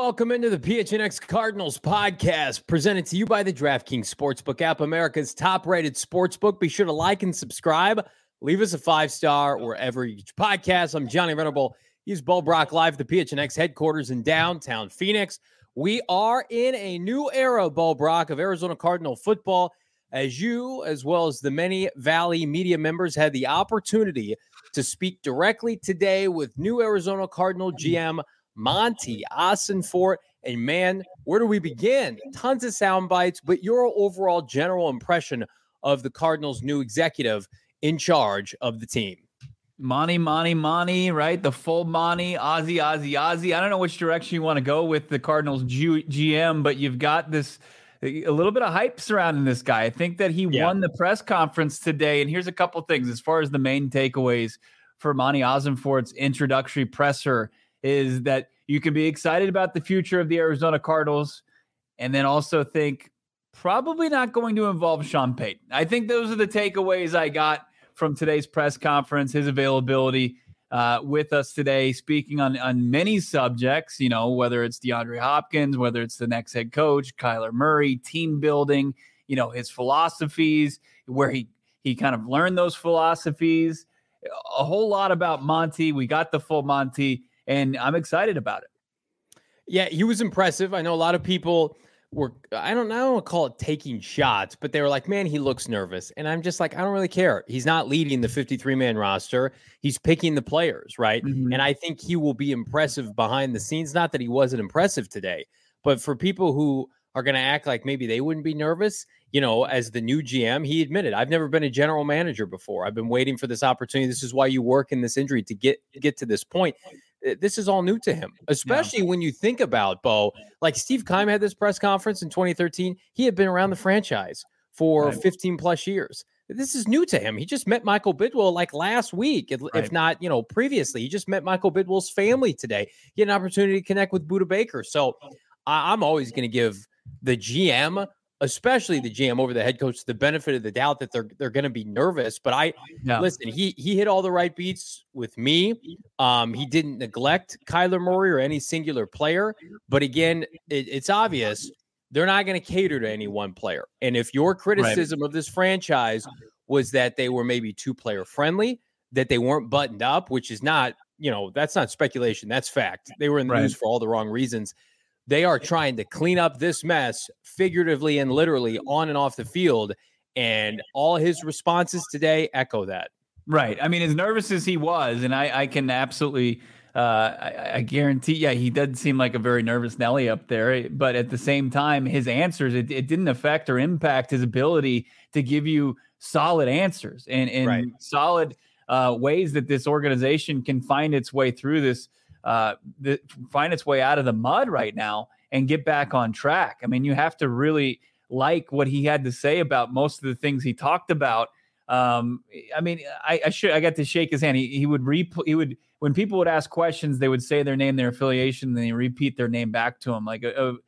welcome into the PHNX Cardinals podcast, presented to you by the DraftKings Sportsbook app, America's top-rated sportsbook. Be sure to like and subscribe. Leave us a 5-star wherever you get your podcast. I'm Johnny Venable. He's Bo Brock live at the PHNX headquarters in downtown Phoenix. We are in a new era, Bo Brock, of Arizona Cardinal football, as you, as well as the many Valley media members, had the opportunity to speak directly today with new Arizona Cardinal GM Monti Ossenfort. And man, where do we begin? Tons of sound bites, but your overall general impression of the Cardinals' new executive in charge of the team. Monty, right? The full Monty, Ozzy. I don't know which direction you want to go with the Cardinals GM, but you've got this a little bit of hype surrounding this guy. I think that he won the press conference today, and here's a couple things as far as the main takeaways for Monti Ossenfort's introductory presser is that you can be excited about the future of the Arizona Cardinals and then also think probably not going to involve Sean Payton. I think those are the takeaways I got from today's press conference, his availability with us today, speaking on many subjects, you know, whether it's DeAndre Hopkins, whether it's the next head coach, Kyler Murray, team building, you know, his philosophies, where he kind of learned those philosophies, a whole lot about Monty. We got the full Monty, and I'm excited about it. Yeah, he was impressive. I know a lot of people were, I don't want to call it taking shots, but they were like, man, he looks nervous. And I'm just like, I don't really care. He's not leading the 53-man roster. He's picking the players, right? Mm-hmm. And I think he will be impressive behind the scenes. Not that he wasn't impressive today, but for people who are going to act like maybe they wouldn't be nervous, you know, as the new GM, he admitted, I've never been a general manager before. I've been waiting for this opportunity. This is why you work in this injury to get to this point. This is all new to him, especially when you think about, Bo, like Steve Keim had this press conference in 2013. He had been around the franchise for 15 plus years. This is new to him. He just met Michael Bidwill like last week, if not, you know, previously. He just met Michael Bidwill's family today. He had an opportunity to connect with Budda Baker. So I'm always going to give the GM, especially the GM over the head coach, the benefit of the doubt that they're going to be nervous. But listen, he hit all the right beats with me. He didn't neglect Kyler Murray or any singular player. But again, it's obvious they're not going to cater to any one player. And if your criticism of this franchise was that they were maybe too player friendly, that they weren't buttoned up, which is not, you know, that's not speculation. That's fact. They were in the news for all the wrong reasons. They are trying to clean up this mess figuratively and literally on and off the field. And all his responses today echo that. Right. I mean, as nervous as he was, and I can absolutely, I guarantee, he did seem like a very nervous Nelly up there. But at the same time, his answers, it didn't affect or impact his ability to give you solid answers and solid ways that this organization can find its way through this. Find its way out of the mud right now and get back on track. I mean, you have to really like what he had to say about most of the things he talked about. I mean, I got to shake his hand. He would when people would ask questions, they would say their name, their affiliation, and they repeat their name back to him. Like,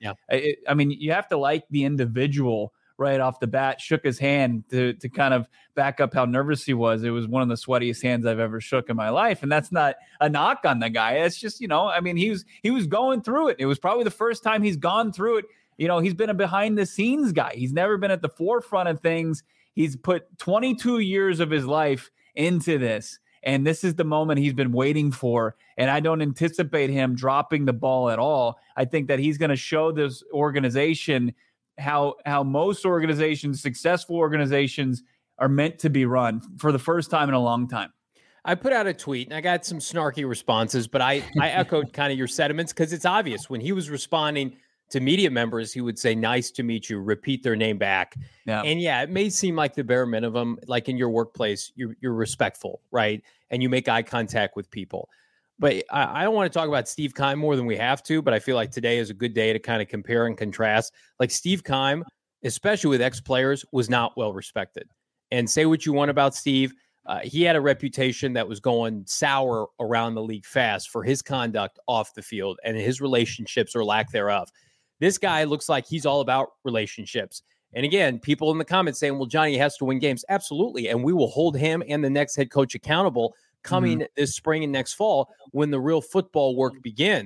I mean, you have to like the individual right off the bat. Shook his hand to kind of back up how nervous he was. It was one of the sweatiest hands I've ever shook in my life. And that's not a knock on the guy. It's just, you know, I mean, he was going through it. It was probably the first time he's gone through it. You know, he's been a behind the scenes guy. He's never been at the forefront of things. He's put 22 years of his life into this. And this is the moment he's been waiting for. And I don't anticipate him dropping the ball at all. I think that he's going to show this organization how most organizations, successful organizations, are meant to be run for the first time in a long time. I put out a tweet and I got some snarky responses, but I echoed kind of your sentiments because it's obvious when he was responding to media members, he would say, nice to meet you, repeat their name back. Yeah. And it may seem like the bare minimum, like in your workplace, you're respectful, right? And you make eye contact with people. But I don't want to talk about Steve Keim more than we have to, but I feel like today is a good day to kind of compare and contrast. Like Steve Keim, especially with ex-players, was not well respected. And say what you want about Steve, he had a reputation that was going sour around the league fast for his conduct off the field and his relationships or lack thereof. This guy looks like he's all about relationships. And again, people in the comments saying, well, Johnny has to win games. Absolutely. And we will hold him and the next head coach accountable coming this spring and next fall when the real football work begins.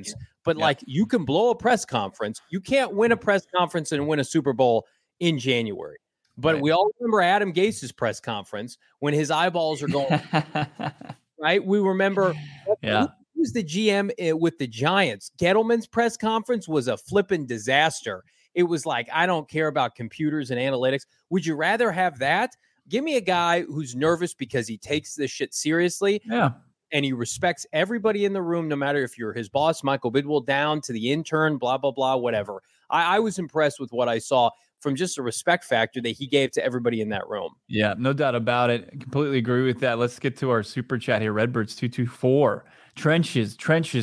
But like, you can blow a press conference. You can't win a press conference and win a Super Bowl in January. But we all remember Adam Gase's press conference when his eyeballs are going right. We remember who's the GM with the Giants. Gettleman's press conference was a flipping disaster. It was like, I don't care about computers and analytics. Would you rather have that? Give me a guy who's nervous because he takes this shit seriously. Yeah. And he respects everybody in the room, no matter if you're his boss, Michael Bidwell, down to the intern, blah, blah, blah, whatever. I was impressed with what I saw from just a respect factor that he gave to everybody in that room. Yeah, no doubt about it. I completely agree with that. Let's get to our super chat here. Redbirds 224. Trenches,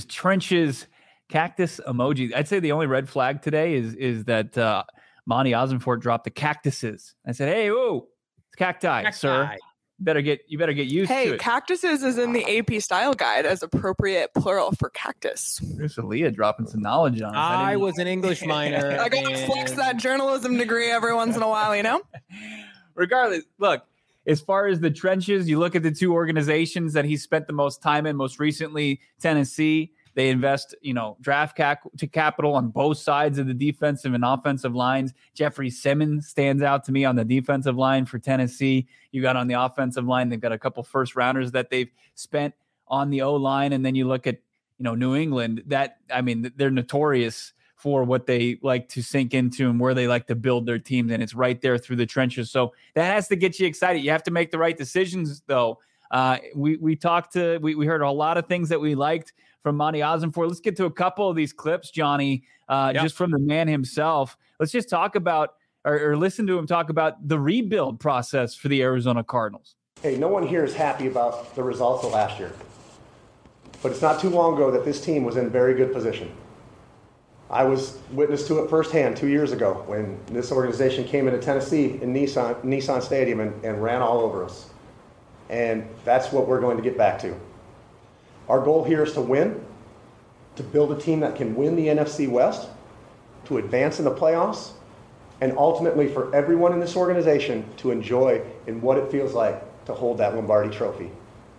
cactus emoji. I'd say the only red flag today is that Monty Ossenfort dropped the cactuses. I said, hey, whoa, it's cacti, sir. You better get used to it. Hey, cactuses is in the AP style guide as appropriate plural for cactus. There's Aaliyah dropping some knowledge on us. I was an English minor. I gotta flex that journalism degree every once in a while, you know? Regardless, look, as far as the trenches, you look at the two organizations that he spent the most time in, most recently, Tennessee. They invest, draft capital on both sides of the defensive and offensive lines. Jeffrey Simmons stands out to me on the defensive line for Tennessee. You got on the offensive line, they've got a couple first rounders that they've spent on the O-line. And then you look at, New England, they're notorious for what they like to sink into and where they like to build their teams. And it's right there through the trenches. So that has to get you excited. You have to make the right decisions, though. We heard a lot of things that we liked from Monty Ossenfort. Let's get to a couple of these clips, Johnny, just from the man himself. Let's just talk about or listen to him talk about the rebuild process for the Arizona Cardinals. Hey, no one here is happy about the results of last year. But it's not too long ago that this team was in very good position. I was witness to it firsthand 2 years ago when this organization came into Tennessee in Nissan Stadium and ran all over us. And that's what we're going to get back to. Our goal here is to win, to build a team that can win the NFC West, to advance in the playoffs, and ultimately for everyone in this organization to enjoy in what it feels like to hold that Lombardi trophy.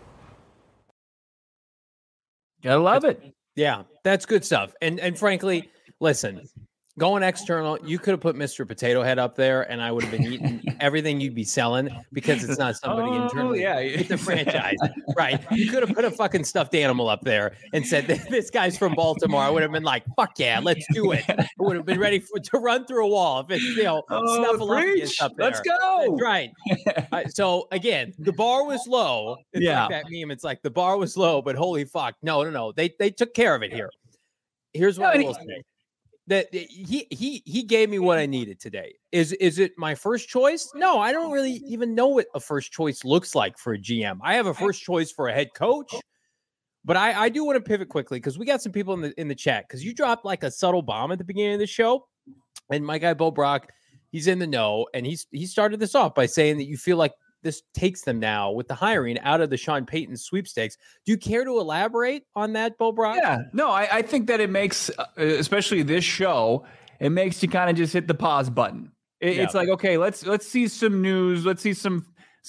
Gotta love it. Yeah, that's good stuff. And frankly, listen, going external, you could have put Mr. Potato Head up there and I would have been eating everything you'd be selling because it's not somebody internally with the franchise. Right. You could have put a fucking stuffed animal up there and said, this guy's from Baltimore. I would have been like, fuck yeah, let's do it. I would have been ready to run through a wall if it's, Snuffleupagus up there. Let's go. That's right. So again, the bar was low. It's like that meme. It's like the bar was low, but holy fuck. No. They took care of it here. Here's what I will say. That he gave me what I needed today. Is it my first choice? No, I don't really even know what a first choice looks like for a GM. I have a first choice for a head coach, but I do want to pivot quickly because we got some people in the chat because you dropped like a subtle bomb at the beginning of the show, and my guy Bo Brock, he's in the know, and he started this off by saying that you feel like this takes them now with the hiring out of the Sean Payton sweepstakes. Do you care to elaborate on that, Bo Brock? Yeah, no, I think that it makes, especially this show, it makes you kind of just hit the pause button. It's like, okay, let's see some news. Let's see some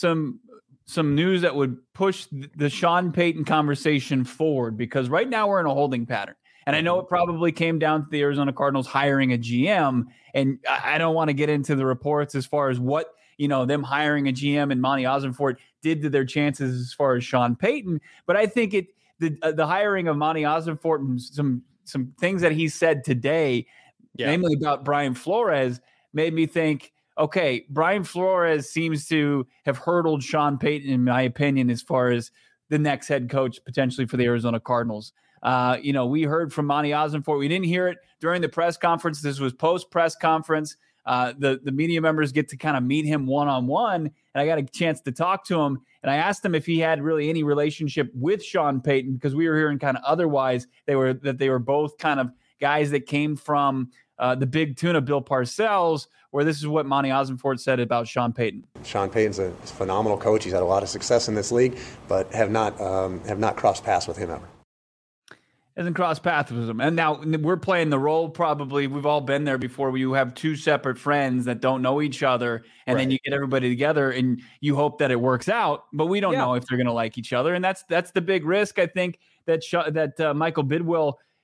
news that would push the Sean Payton conversation forward, because right now we're in a holding pattern. And I know it probably came down to the Arizona Cardinals hiring a GM, and I don't want to get into the reports as far as what them hiring a GM and Monty Ossenfort did to their chances as far as Sean Payton. But I think the hiring of Monty Ossenfort and some things that he said today, namely about Brian Flores, made me think, okay, Brian Flores seems to have hurdled Sean Payton, in my opinion, as far as the next head coach potentially for the Arizona Cardinals. We heard from Monty Ossenfort. We didn't hear it during the press conference. This was post-press conference. The media members get to kind of meet him one-on-one, and I got a chance to talk to him. And I asked him if he had really any relationship with Sean Payton, because we were hearing kind of otherwise. They were both kind of guys that came from the Big Tuna, Bill Parcells, where this is what Monty Ossenfort said about Sean Payton. Sean Payton's a phenomenal coach. He's had a lot of success in this league, but have not crossed paths with him ever. Hasn't crossed paths with him. And now we're playing the role, probably. We've all been there before, where you have two separate friends that don't know each other, and then you get everybody together and you hope that it works out, but we don't know if they're going to like each other. And that's the big risk, I think, that Michael Bidwell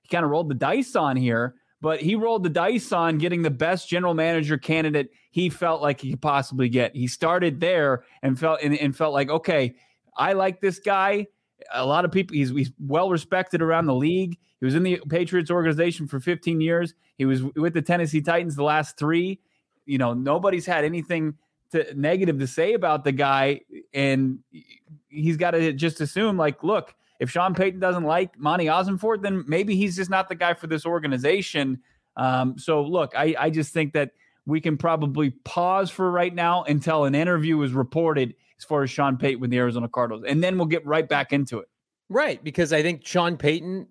kind of rolled the dice on here, but he rolled the dice on getting the best general manager candidate he felt like he could possibly get. He started there and felt like, okay, I like this guy. A lot of people, he's well respected around the league. He was in the Patriots organization for 15 years. He was with the Tennessee Titans the last 3. Nobody's had anything negative to say about the guy, and he's got to just assume, like, look, if Sean Payton doesn't like Monty Ossenfort, then maybe he's just not the guy for this organization. So, look, I just think that we can probably pause for right now until an interview is reported as far as Sean Payton with the Arizona Cardinals, and then we'll get right back into it. Right, because I think Sean Payton,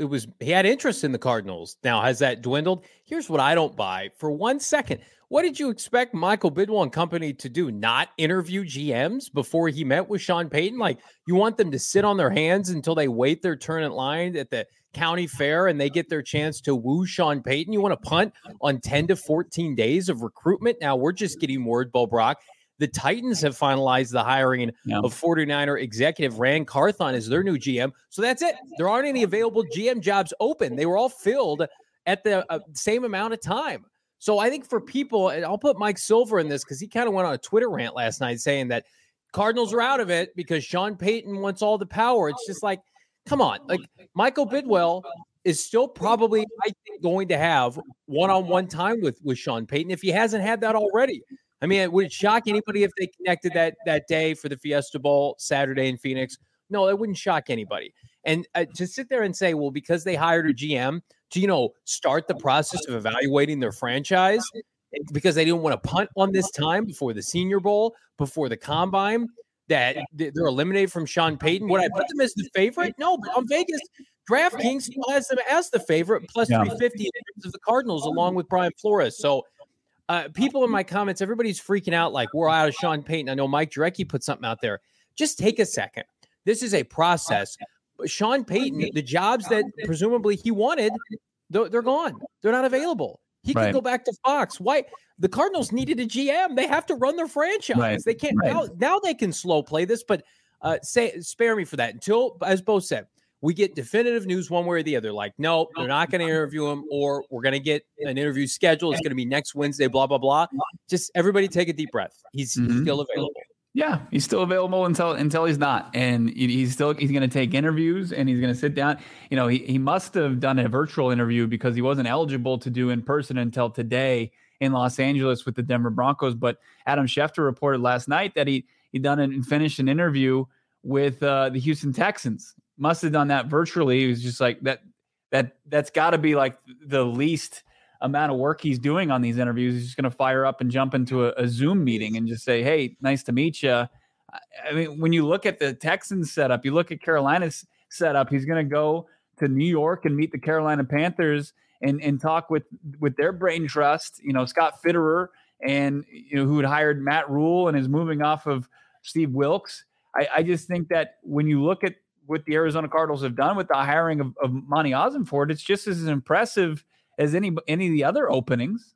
he had interest in the Cardinals. Now, has that dwindled? Here's what I don't buy for 1 second. What did you expect Michael Bidwell and company to do? Not interview GMs before he met with Sean Payton? Like, you want them to sit on their hands until they wait their turn at line at the county fair and they get their chance to woo Sean Payton? You want to punt on 10 to 14 days of recruitment? Now, we're just getting word, Bo Brock. The Titans have finalized the hiring of 49er executive Rand Carthon as their new GM. So that's it. There aren't any available GM jobs open. They were all filled at the same amount of time. So I think for people, and I'll put Mike Silver in this because he kind of went on a Twitter rant last night saying that Cardinals are out of it because Sean Payton wants all the power. It's just like, come on. Like, Michael Bidwell is still probably, I think, going to have one-on-one time with Sean Payton if he hasn't had that already. I mean, would it shock anybody if they connected that day for the Fiesta Bowl Saturday in Phoenix? No, it wouldn't shock anybody. And to sit there and say, well, because they hired a GM to, start the process of evaluating their franchise because they didn't want to punt on this time before the Senior Bowl, before the Combine, that they're eliminated from Sean Payton. Would I put them as the favorite? No, but on Vegas, DraftKings still has them as the favorite, plus 350 in terms of the Cardinals, along with Brian Flores. So, people in my comments, everybody's freaking out like we're out of Sean Payton. I know Mike Jurecki put something out there. Just take a second. This is a process. Sean Payton, the jobs that presumably he wanted, they're gone. They're not available. He can go back to Fox. Why? The Cardinals needed a GM. They have to run their franchise. Right. They can't now they can slow play this, but spare me for that until, as Bo said, we get definitive news one way or the other. Like, no, they're not going to interview him, or we're going to get an interview schedule. It's going to be next Wednesday, blah, blah, blah. Just everybody take a deep breath. He's still available. Yeah, he's still available until he's not. And he's going to take interviews and he's going to sit down. He must have done a virtual interview because he wasn't eligible to do in person until today in Los Angeles with the Denver Broncos. But Adam Schefter reported last night that he done and finished an interview with the Houston Texans. Must have done that virtually. He was just like that's got to be like the least amount of work he's doing on these interviews. He's just going to fire up and jump into a Zoom meeting and just say, hey, nice to meet you. I mean, when you look at the Texans setup, you look at Carolina's setup, he's going to go to New York and meet the Carolina Panthers and talk with their brain trust, Scott Fitterer and, who had hired Matt Rule and is moving off of Steve Wilkes. I just think that when you look at what the Arizona Cardinals have done with the hiring of Monty Ossenfort, it's just as impressive as any of the other openings.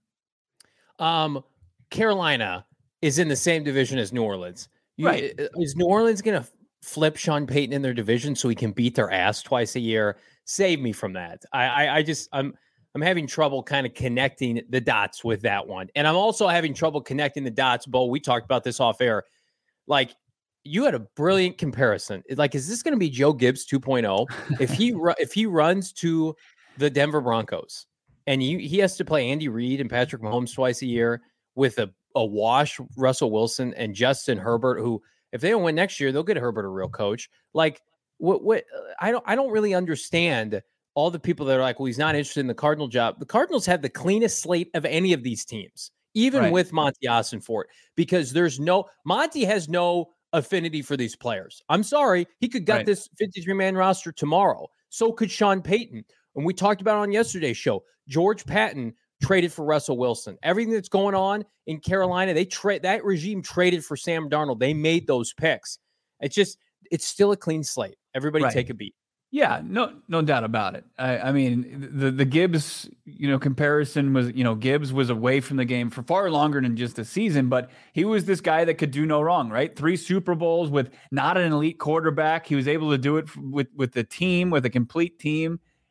Carolina is in the same division as New Orleans. Right. Is New Orleans going to flip Sean Payton in their division so he can beat their ass twice a year? Save me from that. I'm having trouble kind of connecting the dots with that one. And I'm also having trouble connecting the dots, Bo. We talked about this off air. Like, you had a brilliant comparison. Like, is this going to be Joe Gibbs 2.0? If he runs to the Denver Broncos and he has to play Andy Reid and Patrick Mahomes twice a year with a wash Russell Wilson and Justin Herbert, who, if they don't win next year, they'll get Herbert a real coach. Like, what I don't really understand all the people that are like, well, he's not interested in the Cardinal job. The Cardinals have the cleanest slate of any of these teams, even with Monty Ossenfort, because Monty has no affinity for these players. I'm sorry. He could gut this 53-man roster tomorrow. So could Sean Payton. And we talked about it on yesterday's show. George Patton traded for Russell Wilson. Everything that's going on in Carolina, that regime traded for Sam Darnold. They made those picks. It's still a clean slate. Everybody take a beat. Yeah, no doubt about it. I mean, the Gibbs, comparison was, Gibbs was away from the game for far longer than just a season, but he was this guy that could do no wrong, right? 3 Super Bowls with not an elite quarterback. He was able to do it with the team, with a complete team.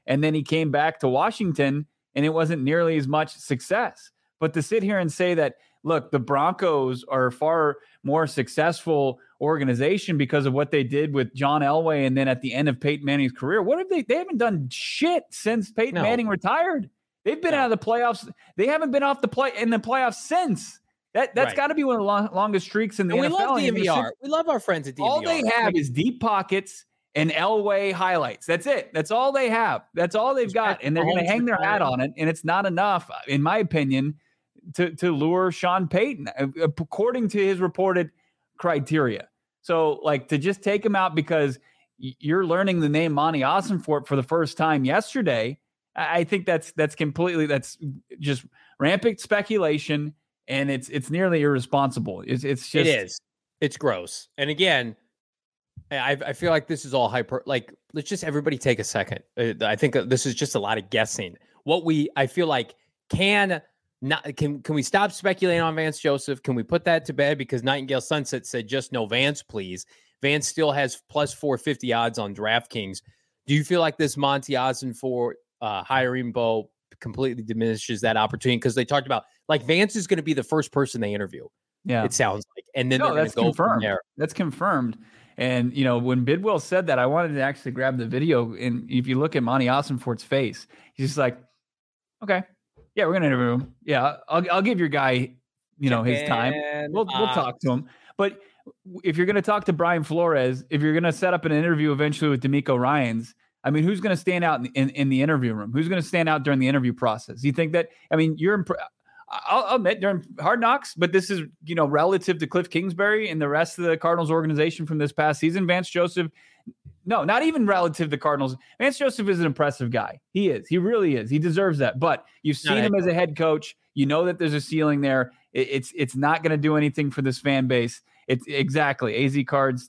And then he came back to Washington and it wasn't nearly as much success. But to sit here and say that, look, the Broncos are a far more successful organization because of what they did with John Elway and then at the end of Peyton Manning's career. What have they haven't done shit since Peyton Manning retired. They've been out of the playoffs. They haven't been in the playoffs since. That's got to be one of the longest streaks in the NFL. We love DNVR. We love our friends at DNVR. All they have is deep pockets and Elway highlights. That's it. That's all they have. That's all they've got. And they're going to hang their hat on it. And it's not enough, in my opinion, to lure Sean Payton, according to his reported criteria. So, like, to just take him out because you're learning the name Monty Ossenfort for the first time yesterday, I think that's just rampant speculation, and it's nearly irresponsible. It's gross. And again, I feel like this is all hyper. Like, let's just everybody take a second. I think this is just a lot of guessing. I feel like can we stop speculating on Vance Joseph? Can we put that to bed? Because Nightingale Sunset said just no Vance, please. Vance still has plus 450 odds on DraftKings. Do you feel like this Monty Ossenfort hiring Bo completely diminishes that opportunity? Because they talked about, like, Vance is going to be the first person they interview. Yeah, it sounds like, and then they're going to go from there. That's confirmed. And when Bidwell said that, I wanted to actually grab the video. And if you look at Monty Ossenfort's face, he's just like, "Okay, yeah, we're going to interview him. Yeah, I'll give your guy, his time. We'll talk to him." But if you're going to talk to Brian Flores, if you're going to set up an interview eventually with D'Amico Ryans, I mean, who's going to stand out in the interview room? Who's going to stand out during the interview process? You think that? I mean, I'll admit during Hard Knocks, but this is relative to Cliff Kingsbury and the rest of the Cardinals organization from this past season. Vance Joseph, no, not even relative to the Cardinals. Vance Joseph is an impressive guy. He is. He really is. He deserves that. But you've seen him as a head coach. You know that there's a ceiling there. It's not going to do anything for this fan base. It's exactly AZ Cards.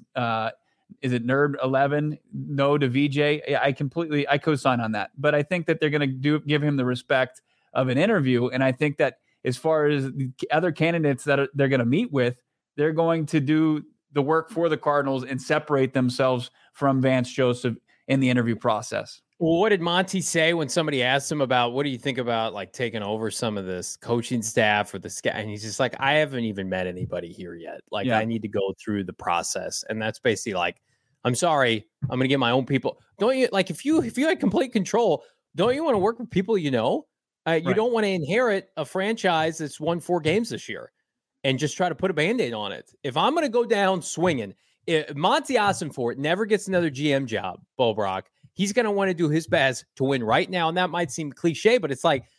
Is it Nerd 11? No to VJ. I co-sign on that. But I think that they're going to give him the respect of an interview. And I think that as far as the other candidates that they're going to meet with, they're going to do the work for the Cardinals and separate themselves from Vance Joseph in the interview process. Well, what did Monty say when somebody asked him about, what do you think about like taking over some of this coaching staff or the scout? And he's just like, I haven't even met anybody here yet. Like, I need to go through the process. And that's basically like, I'm sorry, I'm going to get my own people. Don't you, like, if you had complete control, don't you want to work with people you know? You don't want to inherit a franchise that's won 4 games this year and just try to put a Band-Aid on it. If I'm going to go down swinging, if Monty Ossenfort never gets another GM job, Bo Brock, he's going to want to do his best to win right now. And that might seem cliche, but it's like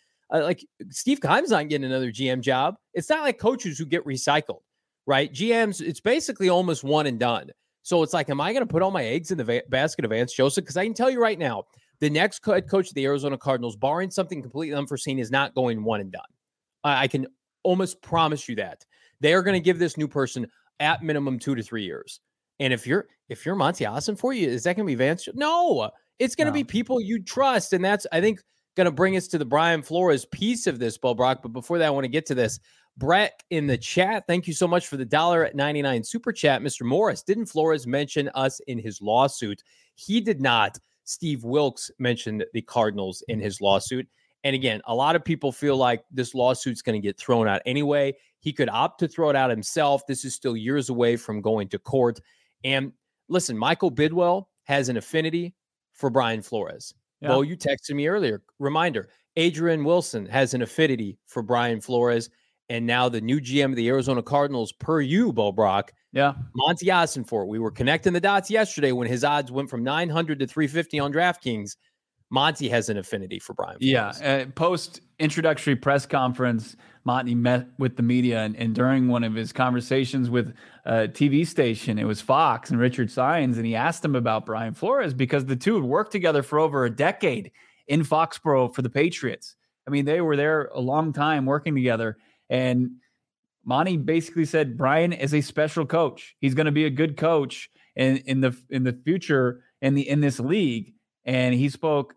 Steve Keim's not getting another GM job. It's not like coaches who get recycled, right? GMs, it's basically almost one and done. So it's like, am I going to put all my eggs in the basket of Vance Joseph? Because I can tell you right now, the next head coach of the Arizona Cardinals, barring something completely unforeseen, is not going one and done. I can almost promise you that. They are going to give this new person at minimum 2 to 3 years. And if you're Monty Ossenfort, is that going to be Vance? No, it's going to be people you trust. And that's, I think, going to bring us to the Brian Flores piece of this, Bo Brock. But before that, I want to get to this. Brett in the chat, thank you so much for the $1.99 super chat. Mr. Morris, didn't Flores mention us in his lawsuit? He did not. Steve Wilkes mentioned the Cardinals in his lawsuit. And again, a lot of people feel like this lawsuit's going to get thrown out anyway. He could opt to throw it out himself. This is still years away from going to court. And listen, Michael Bidwell has an affinity for Brian Flores. Yeah. Bo, you texted me earlier. Reminder, Adrian Wilson has an affinity for Brian Flores. And now the new GM of the Arizona Cardinals, per you, Bo Brock. Yeah. Monty Ossenfort. We were connecting the dots yesterday when his odds went from 900 to 350 on DraftKings. Monty has an affinity for Brian Flores. Yeah. Post-introductory press conference, Monty met with the media, and during one of his conversations with a TV station, it was Fox and Richard Sines, and he asked him about Brian Flores because the two had worked together for over a decade in Foxborough for the Patriots. I mean, they were there a long time working together. And Monty basically said Brian is a special coach. He's going to be a good coach in the future in this league. And he spoke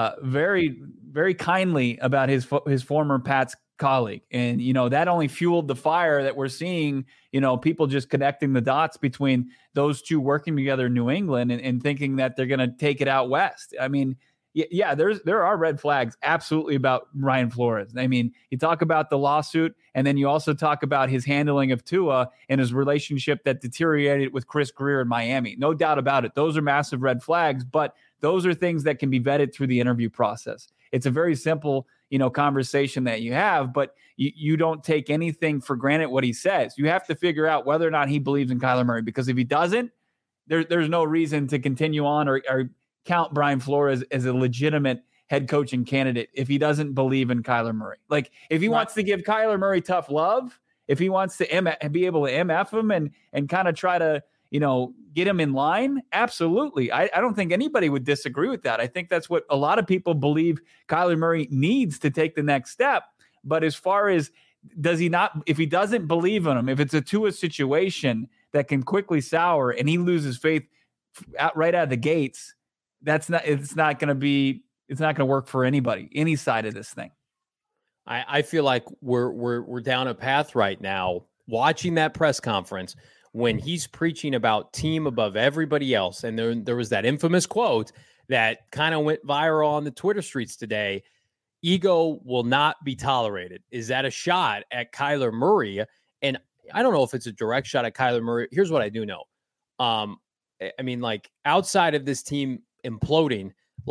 very, very kindly about his former Pats colleague. And, that only fueled the fire that we're seeing, people just connecting the dots between those two working together in New England and thinking that they're going to take it out west. I mean, yeah, there are red flags absolutely about Brian Flores. I mean, you talk about the lawsuit, and then you also talk about his handling of Tua and his relationship that deteriorated with Chris Greer in Miami. No doubt about it. Those are massive red flags, but those are things that can be vetted through the interview process. It's a very simple, conversation that you have, but you don't take anything for granted what he says. You have to figure out whether or not he believes in Kyler Murray, because if he doesn't, there's no reason to continue on or count Brian Flores as a legitimate head coaching candidate if he doesn't believe in Kyler Murray. Like, if he wants to give Kyler Murray tough love, if he wants to be able to MF him and kind of try to, get him in line, absolutely. I don't think anybody would disagree with that. I think that's what a lot of people believe Kyler Murray needs to take the next step. But as far as if he doesn't believe in him, if it's a Tua situation that can quickly sour and he loses faith right out of the gates, it's not going to work for anybody, any side of this thing. I feel like we're down a path right now, watching that press conference when he's preaching about team above everybody else. And there was that infamous quote that kind of went viral on the Twitter streets today. Ego will not be tolerated. Is that a shot at Kyler Murray? And I don't know if it's a direct shot at Kyler Murray. Here's what I do know. I mean, like, outside of this team imploding,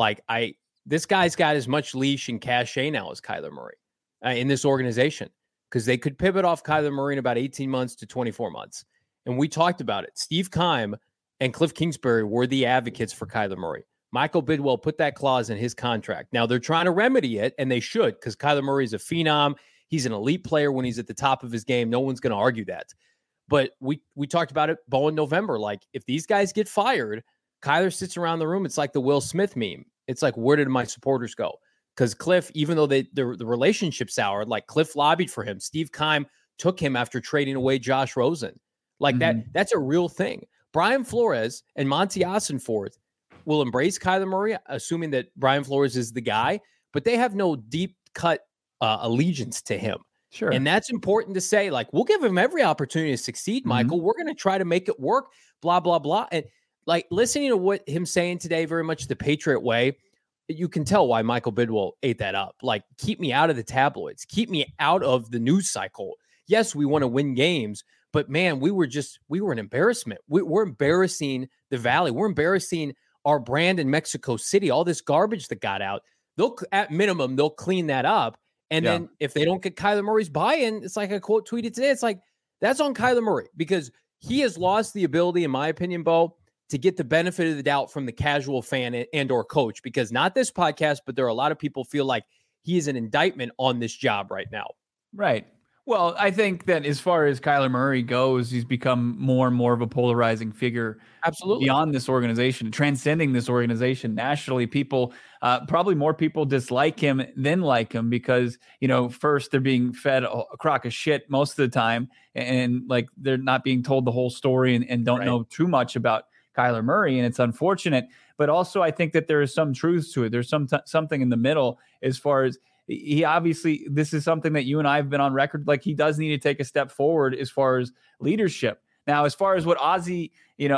this guy's got as much leash and cachet now as Kyler Murray in this organization, because they could pivot off Kyler Murray in about 18 months to 24 months. And we talked about it. Steve Keim and Cliff Kingsbury were the advocates for Kyler Murray. Michael Bidwell put that clause in his contract. Now they're trying to remedy it, and they should, because Kyler Murray is a phenom. He's an elite player when he's at the top of his game. No one's going to argue that. But we talked about it, Bo, in November. Like, if these guys get fired, Kyler sits around the room. It's like the Will Smith meme. It's like, where did my supporters go? Because Cliff, even though the relationship soured, like, Cliff lobbied for him. Steve Keim took him after trading away Josh Rosen. Like, that's a real thing. Brian Flores and Monty Ossenfort will embrace Kyler Murray, assuming that Brian Flores is the guy, but they have no deep cut allegiance to him. Sure. And that's important to say. Like, we'll give him every opportunity to succeed, Michael. We're going to try to make it work, blah, blah, blah. And like, listening to what him saying today, very much the Patriot way, you can tell why Michael Bidwell ate that up. Like, keep me out of the tabloids, keep me out of the news cycle. Yes, we want to win games, but man, we were an embarrassment. We're embarrassing the Valley. We're embarrassing our brand in Mexico City. All this garbage that got out, at minimum, they'll clean that up. And then if they don't get Kyler Murray's buy-in, it's like a quote tweeted today. It's like, that's on Kyler Murray, because he has lost the ability, in my opinion, Bo, to get the benefit of the doubt from the casual fan and or coach, because not this podcast, but there are a lot of people feel like he is an indictment on this job right now. Right. Well, I think that as far as Kyler Murray goes, he's become more and more of a polarizing figure. Absolutely. Beyond this organization, transcending this organization nationally. People, probably more people dislike him than like him because, first they're being fed a crock of shit most of the time, and like they're not being told the whole story and don't know too much about Kyler Murray. And it's unfortunate, but also I think that there is some truth to it. There's something in the middle as far as, he obviously, this is something that you and I have been on record. Like, he does need to take a step forward as far as leadership. Now, as far as what Monty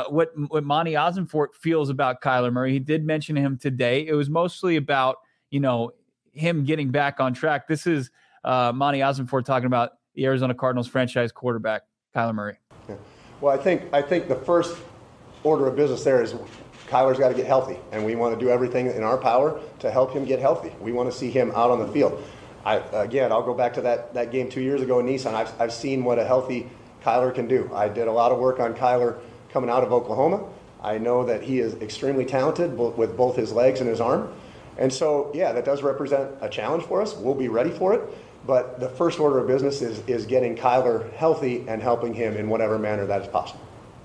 Ossenfort feels about Kyler Murray, he did mention him today. It was mostly about, him getting back on track. This is Monty Ossenfort talking about the Arizona Cardinals franchise quarterback, Kyler Murray. Yeah. Well, I think the first order of business there is Kyler's got to get healthy, and we want to do everything in our power to help him get healthy. We want to see him out on the field. I'll go back to that game 2 years ago in Nissan. I've seen what a healthy Kyler can do. I did a lot of work on Kyler coming out of Oklahoma. I know that he is extremely talented with both his legs and his arm. And so, that does represent a challenge for us. We'll be ready for it. But the first order of business is getting Kyler healthy and helping him in whatever manner that is possible.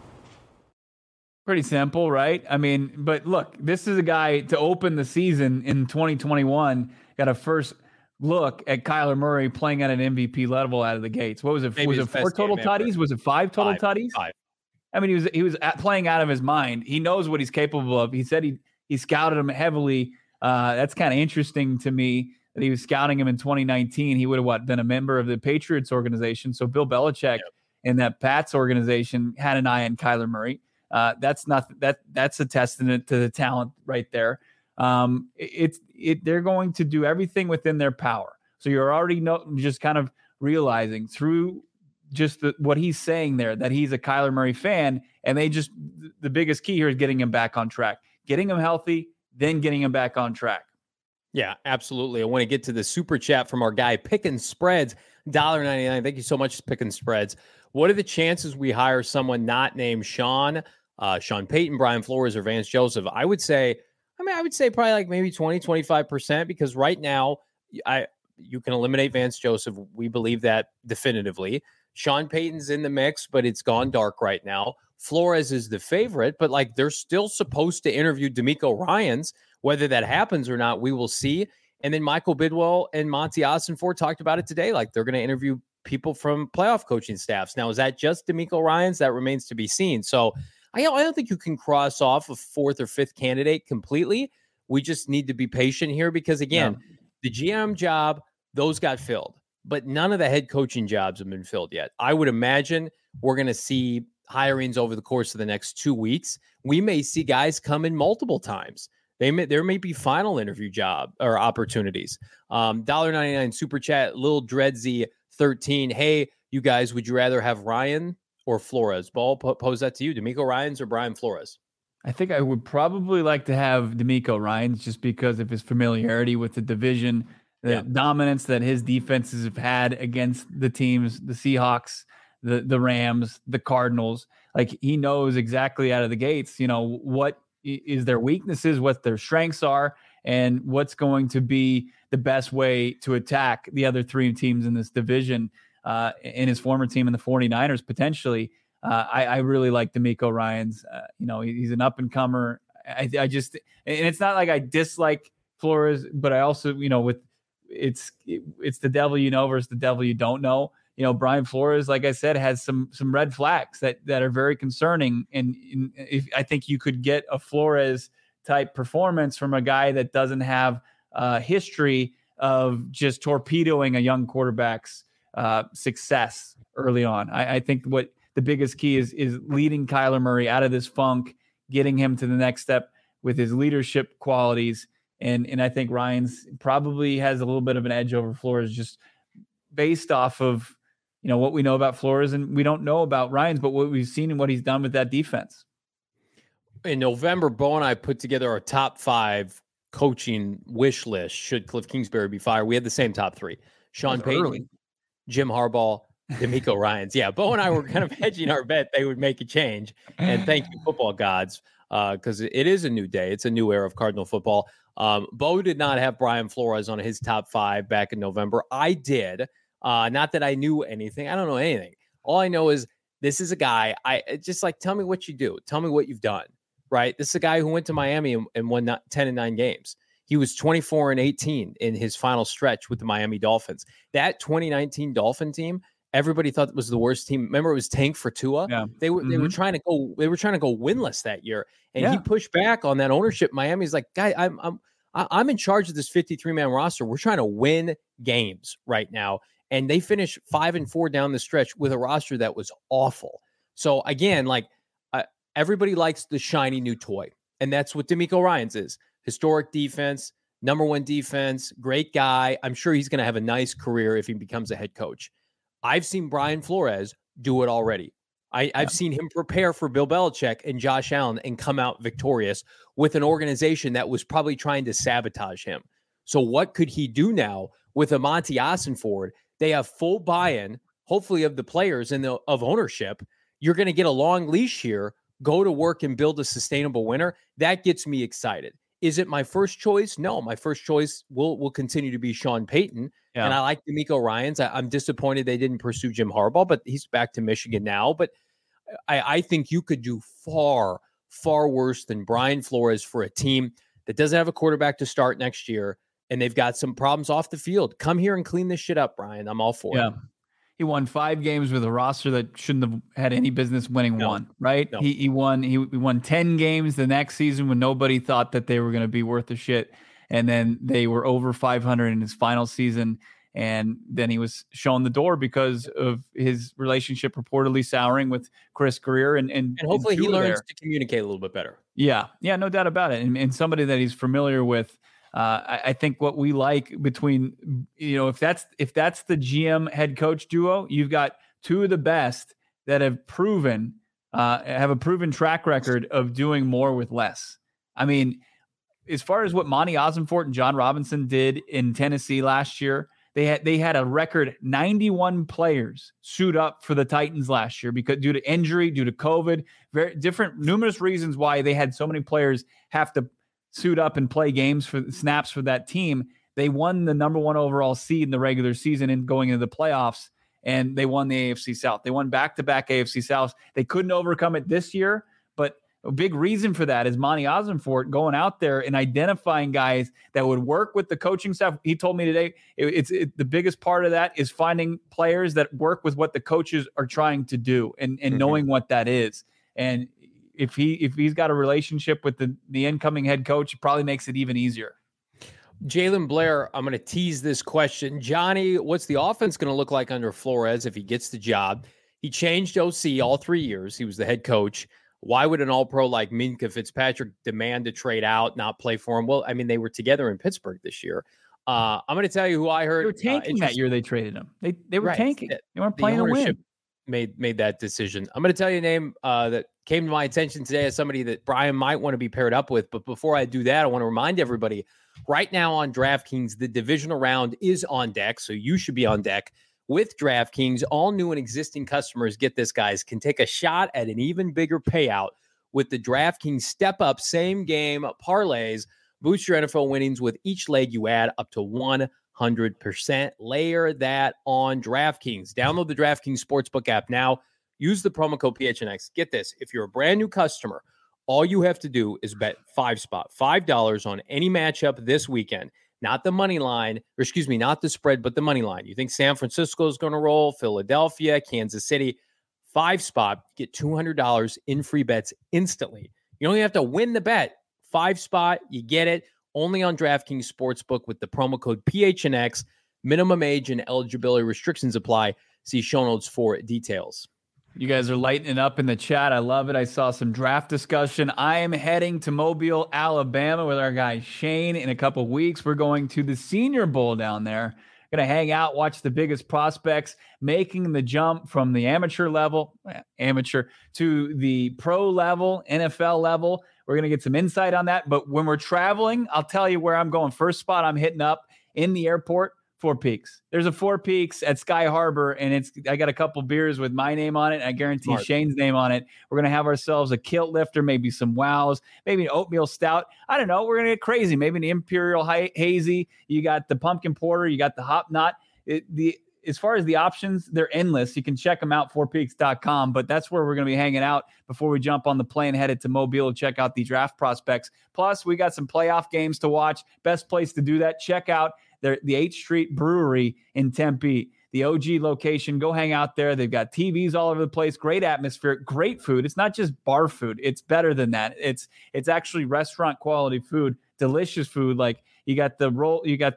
Pretty simple, right? I mean, but look, this is a guy to open the season in 2021, got a first look at Kyler Murray playing at an MVP level out of the gates. What was it? Was it 4 total tutties? Was it 5 total tutties? 5. I mean, he was playing out of his mind. He knows what he's capable of. He said he scouted him heavily. That's kind of interesting to me that he was scouting him in 2019. He would have been a member of the Patriots organization. So Bill Belichick and that Pats organization had an eye on Kyler Murray. That's a testament to the talent right there. They're going to do everything within their power. So you're already just kind of realizing through just what he's saying there that he's a Kyler Murray fan, and the biggest key here is getting him back on track, getting him healthy, then getting him back on track. Yeah, absolutely. I want to get to the super chat from our guy Picking Spreads, $1.99. Thank you so much, Picking Spreads. What are the chances we hire someone not named Sean Payton, Brian Flores, or Vance Joseph? I would say probably like maybe 20, 25%, because right now you can eliminate Vance Joseph. We believe that definitively. Sean Payton's in the mix, but it's gone dark right now. Flores is the favorite, but like they're still supposed to interview D'Amico Ryans. Whether that happens or not, we will see. And then Michael Bidwell and Monty Ossenfort talked about it today. Like they're going to interview people from playoff coaching staffs. Now, is that just D'Amico Ryans? That remains to be seen. So I don't think you can cross off a fourth or fifth candidate completely. We just need to be patient here because, again, the GM job, those got filled. But none of the head coaching jobs have been filled yet. I would imagine we're going to see hirings over the course of the next 2 weeks. We may see guys come in multiple times. There may be final interview job or opportunities. $1.99 super chat, Lil Dreadsy 13. Hey, you guys, would you rather have Ryan or Flores? Ball, pose that to you. D'Amico Ryans or Brian Flores? I think I would probably like to have D'Amico Ryans just because of his familiarity with the division, the dominance that his defenses have had against the teams, the Seahawks, the Rams, the Cardinals. Like he knows exactly out of the gates, what is their weaknesses, what their strengths are, and what's going to be the best way to attack the other three teams in this division, in his former team in the 49ers, potentially. I really like D'Amico Ryans. He's an up-and-comer. I just – and it's not like I dislike Flores, but I also, it's the devil you know versus the devil you don't know. Brian Flores, like I said, has some red flags that are very concerning. And I think you could get a Flores type performance from a guy that doesn't have a history of just torpedoing a young quarterback's success early on. I think what the biggest key is leading Kyler Murray out of this funk, getting him to the next step with his leadership qualities. And I think Ryans probably has a little bit of an edge over Flores just based off of, what we know about Flores, and we don't know about Ryans, but what we've seen and what he's done with that defense. In November, Bo and I put together our top 5 coaching wish list should Cliff Kingsbury be fired. We had the same top 3. Sean Payton, Jim Harbaugh, D'Amico Ryans. Yeah, Bo and I were kind of hedging our bet they would make a change. And thank you, football gods, because it is a new day. It's a new era of Cardinal football. Bo did not have Brian Flores on his top 5 back in November. I did. Not that I knew anything. I don't know anything. All I know is this is a guy. Tell me what you do. Tell me what you've done, right? This is a guy who went to Miami and won 10-9 games. He was 24-18 in his final stretch with the Miami Dolphins. That 2019 Dolphin team, everybody thought it was the worst team. Remember, it was tank for Tua. Yeah. They were trying to go. They were trying to go winless that year, and he pushed back on that ownership. Miami's like, guy, I'm in charge of this 53-man roster. We're trying to win games right now. And they finished 5-4 down the stretch with a roster that was awful. So again, everybody likes the shiny new toy. And that's what D'Amico Ryans is. Historic defense, number 1 defense, great guy. I'm sure he's going to have a nice career if he becomes a head coach. I've seen Brian Flores do it already. I've seen him prepare for Bill Belichick and Josh Allen and come out victorious with an organization that was probably trying to sabotage him. So what could he do now with a Monty Ossenfort? They have full buy-in, hopefully, of the players and of ownership. You're going to get a long leash here, go to work and build a sustainable winner. That gets me excited. Is it my first choice? No, my first choice will continue to be Sean Payton. Yeah. And I like D'Amico Ryans. I'm disappointed they didn't pursue Jim Harbaugh, but he's back to Michigan now. But I think you could do far, far worse than Brian Flores for a team that doesn't have a quarterback to start next year. And they've got some problems off the field. Come here and clean this shit up, Brian. I'm all for it. He won 5 games with a roster that shouldn't have had any business winning one, right? No. He won 10 games the next season when nobody thought that they were going to be worth a shit. And then they were over 500 in his final season. And then he was shown the door because of his relationship reportedly souring with Chris Greer. And hopefully he learns to communicate a little bit better. Yeah, no doubt about it. And somebody that he's familiar with. I think what we like between, if that's the GM head coach duo, you've got two of the best that have a proven track record of doing more with less. I mean, as far as what Monty Ossenfort and John Robinson did in Tennessee last year, they had a record 91 players suit up for the Titans last year because due to injury, due to COVID, numerous reasons why they had so many players have to suit up and play games for snaps for that team. They won the number 1 overall seed in the regular season and going into the playoffs, and they won the AFC South. They won back-to-back AFC Souths. They couldn't overcome it this year, but a big reason for that is Monty Ossenfort going out there and identifying guys that would work with the coaching staff. He told me today the biggest part of that is finding players that work with what the coaches are trying to do and knowing what that is. And if he's got a relationship with the incoming head coach, it probably makes it even easier. Jalen Blair, I'm going to tease this question. Johnny, what's the offense going to look like under Flores if he gets the job? He changed OC all 3 years. He was the head coach. Why would an all-pro like Minkah Fitzpatrick demand to trade out, not play for him? Well, I mean, they were together in Pittsburgh this year. I'm going to tell you who I heard. They were tanking that year they traded him. They were tanking. They weren't playing to win. Made that decision. I'm going to tell you a name that came to my attention today as somebody that Brian might want to be paired up with. But before I do that, I want to remind everybody right now on DraftKings, the divisional round is on deck. So you should be on deck with DraftKings. All new and existing customers, get this, guys, can take a shot at an even bigger payout with the DraftKings Step Up Same Game Parlays. Boost your NFL winnings with each leg you add up to 100%. Layer that on DraftKings. Download the DraftKings Sportsbook app now. Use the promo code PHNX. Get this. If you're a brand new customer, all you have to do is bet $5 on any matchup this weekend. Not the money line, not the spread, but the money line. You think San Francisco is going to roll, Philadelphia, Kansas City, $5, get $200 in free bets instantly. You only have to win the bet. $5, you get it. Only on DraftKings Sportsbook with the promo code PHNX. Minimum age and eligibility restrictions apply. See show notes for details. You guys are lighting it up in the chat. I love it. I saw some draft discussion. I am heading to Mobile, Alabama with our guy Shane in a couple weeks. We're going to the Senior Bowl down there. Going to hang out, watch the biggest prospects making the jump from the amateur to the pro level, NFL level. We're going to get some insight on that. But when we're traveling, I'll tell you where I'm going. First spot I'm hitting up in the airport, Four Peaks. There's a Four Peaks at Sky Harbor, and I got a couple beers with my name on it, and I guarantee Shane's name on it. We're going to have ourselves a kilt lifter, maybe some wows, maybe an oatmeal stout. I don't know. We're going to get crazy. Maybe an Imperial Hazy. You got the pumpkin porter. You got the hop knot. As far as the options, they're endless. You can check them out, fourpeaks.com, but that's where we're going to be hanging out before we jump on the plane headed to Mobile to check out the draft prospects. Plus, we got some playoff games to watch. Best place to do that, check out the 8th Street Brewery in Tempe, the OG location. Go hang out there. They've got TVs all over the place, great atmosphere, great food. It's not just bar food. It's better than that. It's actually restaurant quality food, delicious food. Like you got the roll, you got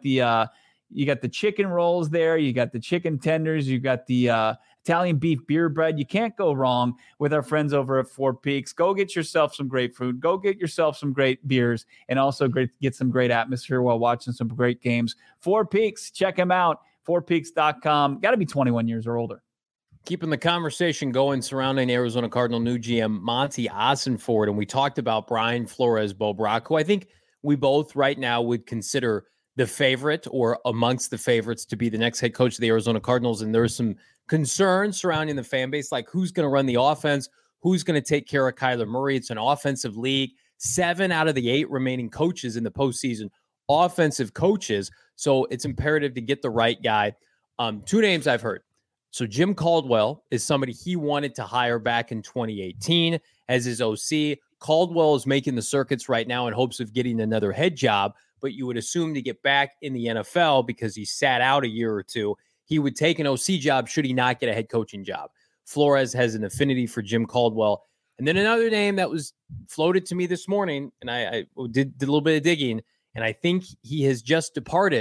the chicken rolls there. You got the chicken tenders. You got the Italian beef beer bread. You can't go wrong with our friends over at Four Peaks. Go get yourself some great food. Go get yourself some great beers and also get some great atmosphere while watching some great games. Four Peaks, check them out. fourpeaks.com. Got to be 21 years or older. Keeping the conversation going surrounding Arizona Cardinal new GM Monty Ossenfort, and we talked about Brian Flores Bobrack, who I think we both right now would consider the favorite or amongst the favorites to be the next head coach of the Arizona Cardinals. And there's some concerns surrounding the fan base, like who's going to run the offense, who's going to take care of Kyler Murray. It's an offensive league. 7 out of the 8 remaining coaches in the postseason, offensive coaches. So it's imperative to get the right guy. 2 names I've heard. So Jim Caldwell is somebody he wanted to hire back in 2018 as his OC. Caldwell is making the circuits right now in hopes of getting another head job, but you would assume to get back in the NFL because he sat out a year or two, he would take an OC job should he not get a head coaching job. Flores has an affinity for Jim Caldwell. And then another name that was floated to me this morning, and I did a little bit of digging, and I think he has just departed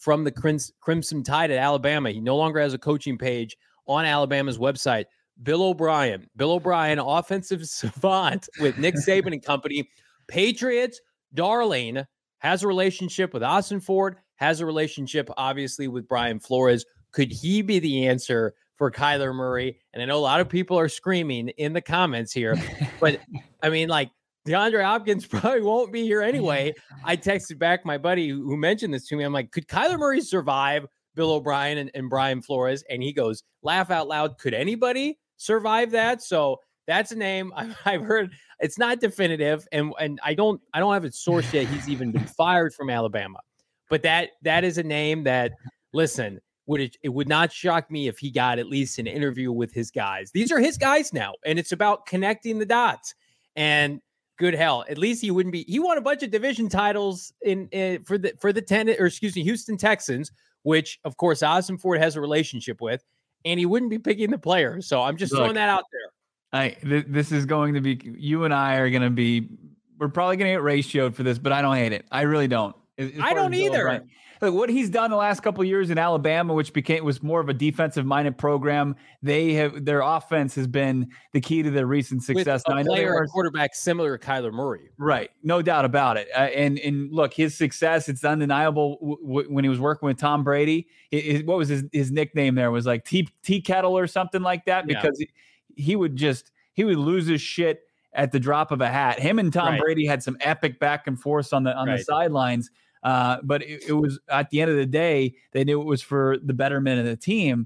from the Crimson Tide at Alabama. He no longer has a coaching page on Alabama's website. Bill O'Brien, offensive savant with Nick Saban and company. Patriots darling, has a relationship with Austin Ford, has a relationship, obviously, with Brian Flores. Could he be the answer for Kyler Murray? And I know a lot of people are screaming in the comments here, but I mean, like, DeAndre Hopkins probably won't be here anyway. I texted back my buddy who mentioned this to me. I'm like, could Kyler Murray survive Bill O'Brien and Brian Flores? And he goes, laugh out loud, could anybody survive that? So that's a name I've heard. It's not definitive, and I don't have it sourced yet. He's even been fired from Alabama, but that is a name that, listen, it would not shock me if he got at least an interview with his guys. These are his guys now, and it's about connecting the dots. And good hell, at least he wouldn't be. He won a bunch of division titles for the Houston Texans, which of course Austin Ford has a relationship with, and he wouldn't be picking the players. So I'm just throwing that out there. This is going to be, you and I are going to be, we're probably going to get ratioed for this, but I don't hate it. I really don't. I don't either. Look, what he's done the last couple of years in Alabama, which was more of a defensive-minded program, their offense has been the key to their recent success. With a quarterback similar to Kyler Murray. Right, no doubt about it. And look, his success, it's undeniable when he was working with Tom Brady. What was his nickname there? Was like Tea Kettle or something like that, because he would lose his shit at the drop of a hat. Him and Tom Brady had some epic back and forth on the sidelines. But it was, at the end of the day, they knew it was for the betterment of the team.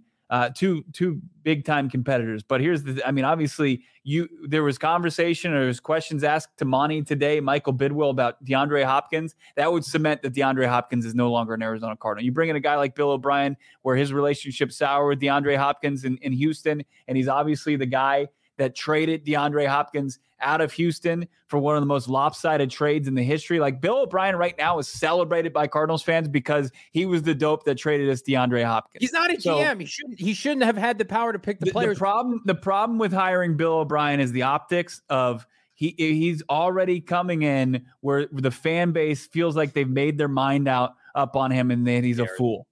Two big time competitors. But obviously there was conversation, or there was questions asked to Monty today, Michael Bidwill, about DeAndre Hopkins. That would cement that DeAndre Hopkins is no longer an Arizona Cardinal. You bring in a guy like Bill O'Brien, where his relationship sour with DeAndre Hopkins in Houston, and he's obviously the guy that traded DeAndre Hopkins out of Houston for one of the most lopsided trades in the history. Like, Bill O'Brien right now is celebrated by Cardinals fans because he was the dope that traded us DeAndre Hopkins. He's not a GM. He shouldn't have had the power to pick the players. The problem with hiring Bill O'Brien is the optics of he's already coming in where the fan base feels like they've made their mind up on him, and then he's a fool.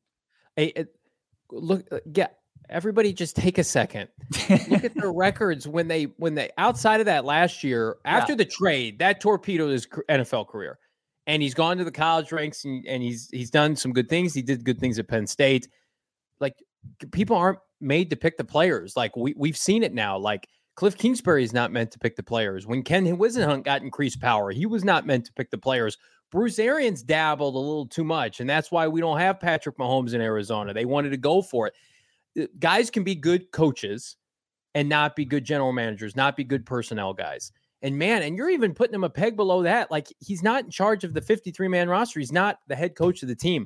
Everybody just take a second. Look at their records when they outside of that last year, after the trade, that torpedoed his NFL career. And he's gone to the college ranks, and he's done some good things. He did good things at Penn State. Like, people aren't made to pick the players. Like, we've seen it now. Like, Cliff Kingsbury is not meant to pick the players. When Ken Whisenhunt got increased power, he was not meant to pick the players. Bruce Arians dabbled a little too much, and that's why we don't have Patrick Mahomes in Arizona. They wanted to go for it. Guys can be good coaches and not be good general managers, not be good personnel guys. And you're even putting him a peg below that. Like, he's not in charge of the 53-man roster. He's not the head coach of the team.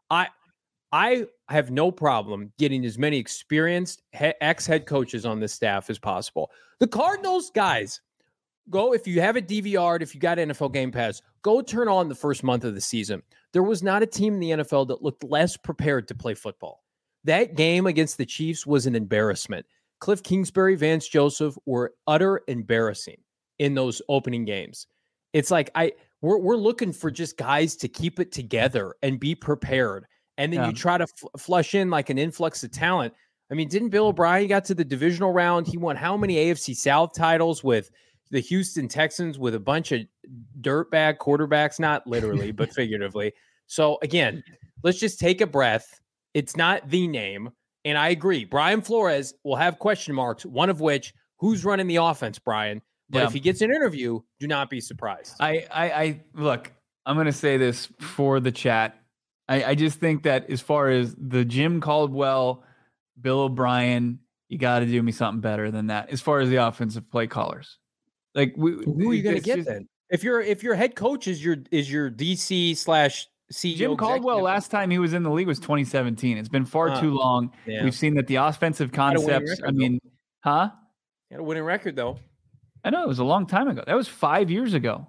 I have no problem getting as many experienced ex-head coaches on this staff as possible. The Cardinals, guys, go, if you have it DVR'd, if you got NFL Game Pass, go turn on the first month of the season. There was not a team in the NFL that looked less prepared to play football. That game against the Chiefs was an embarrassment. Cliff Kingsbury, Vance Joseph were utter embarrassing in those opening games. It's like we're looking for just guys to keep it together and be prepared. And then you try to flush in like an influx of talent. I mean, didn't Bill O'Brien got to the divisional round? He won how many AFC South titles with the Houston Texans with a bunch of dirtbag quarterbacks, not literally, but figuratively. So again, let's just take a breath. It's not the name. And I agree. Brian Flores will have question marks, one of which, who's running the offense, Brian? But if he gets an interview, do not be surprised. I look, I'm going to say this for the chat. I just think that as far as the Jim Caldwell, Bill O'Brien, you got to do me something better than that. As far as the offensive play callers, like who are you going to get then? If your head coach is your DC/CEO, Jim Caldwell, last time he was in the league was 2017. It's been far too long. Yeah. We've seen that the offensive concepts. He had a winning record though. I know, it was a long time ago. That was 5 years ago.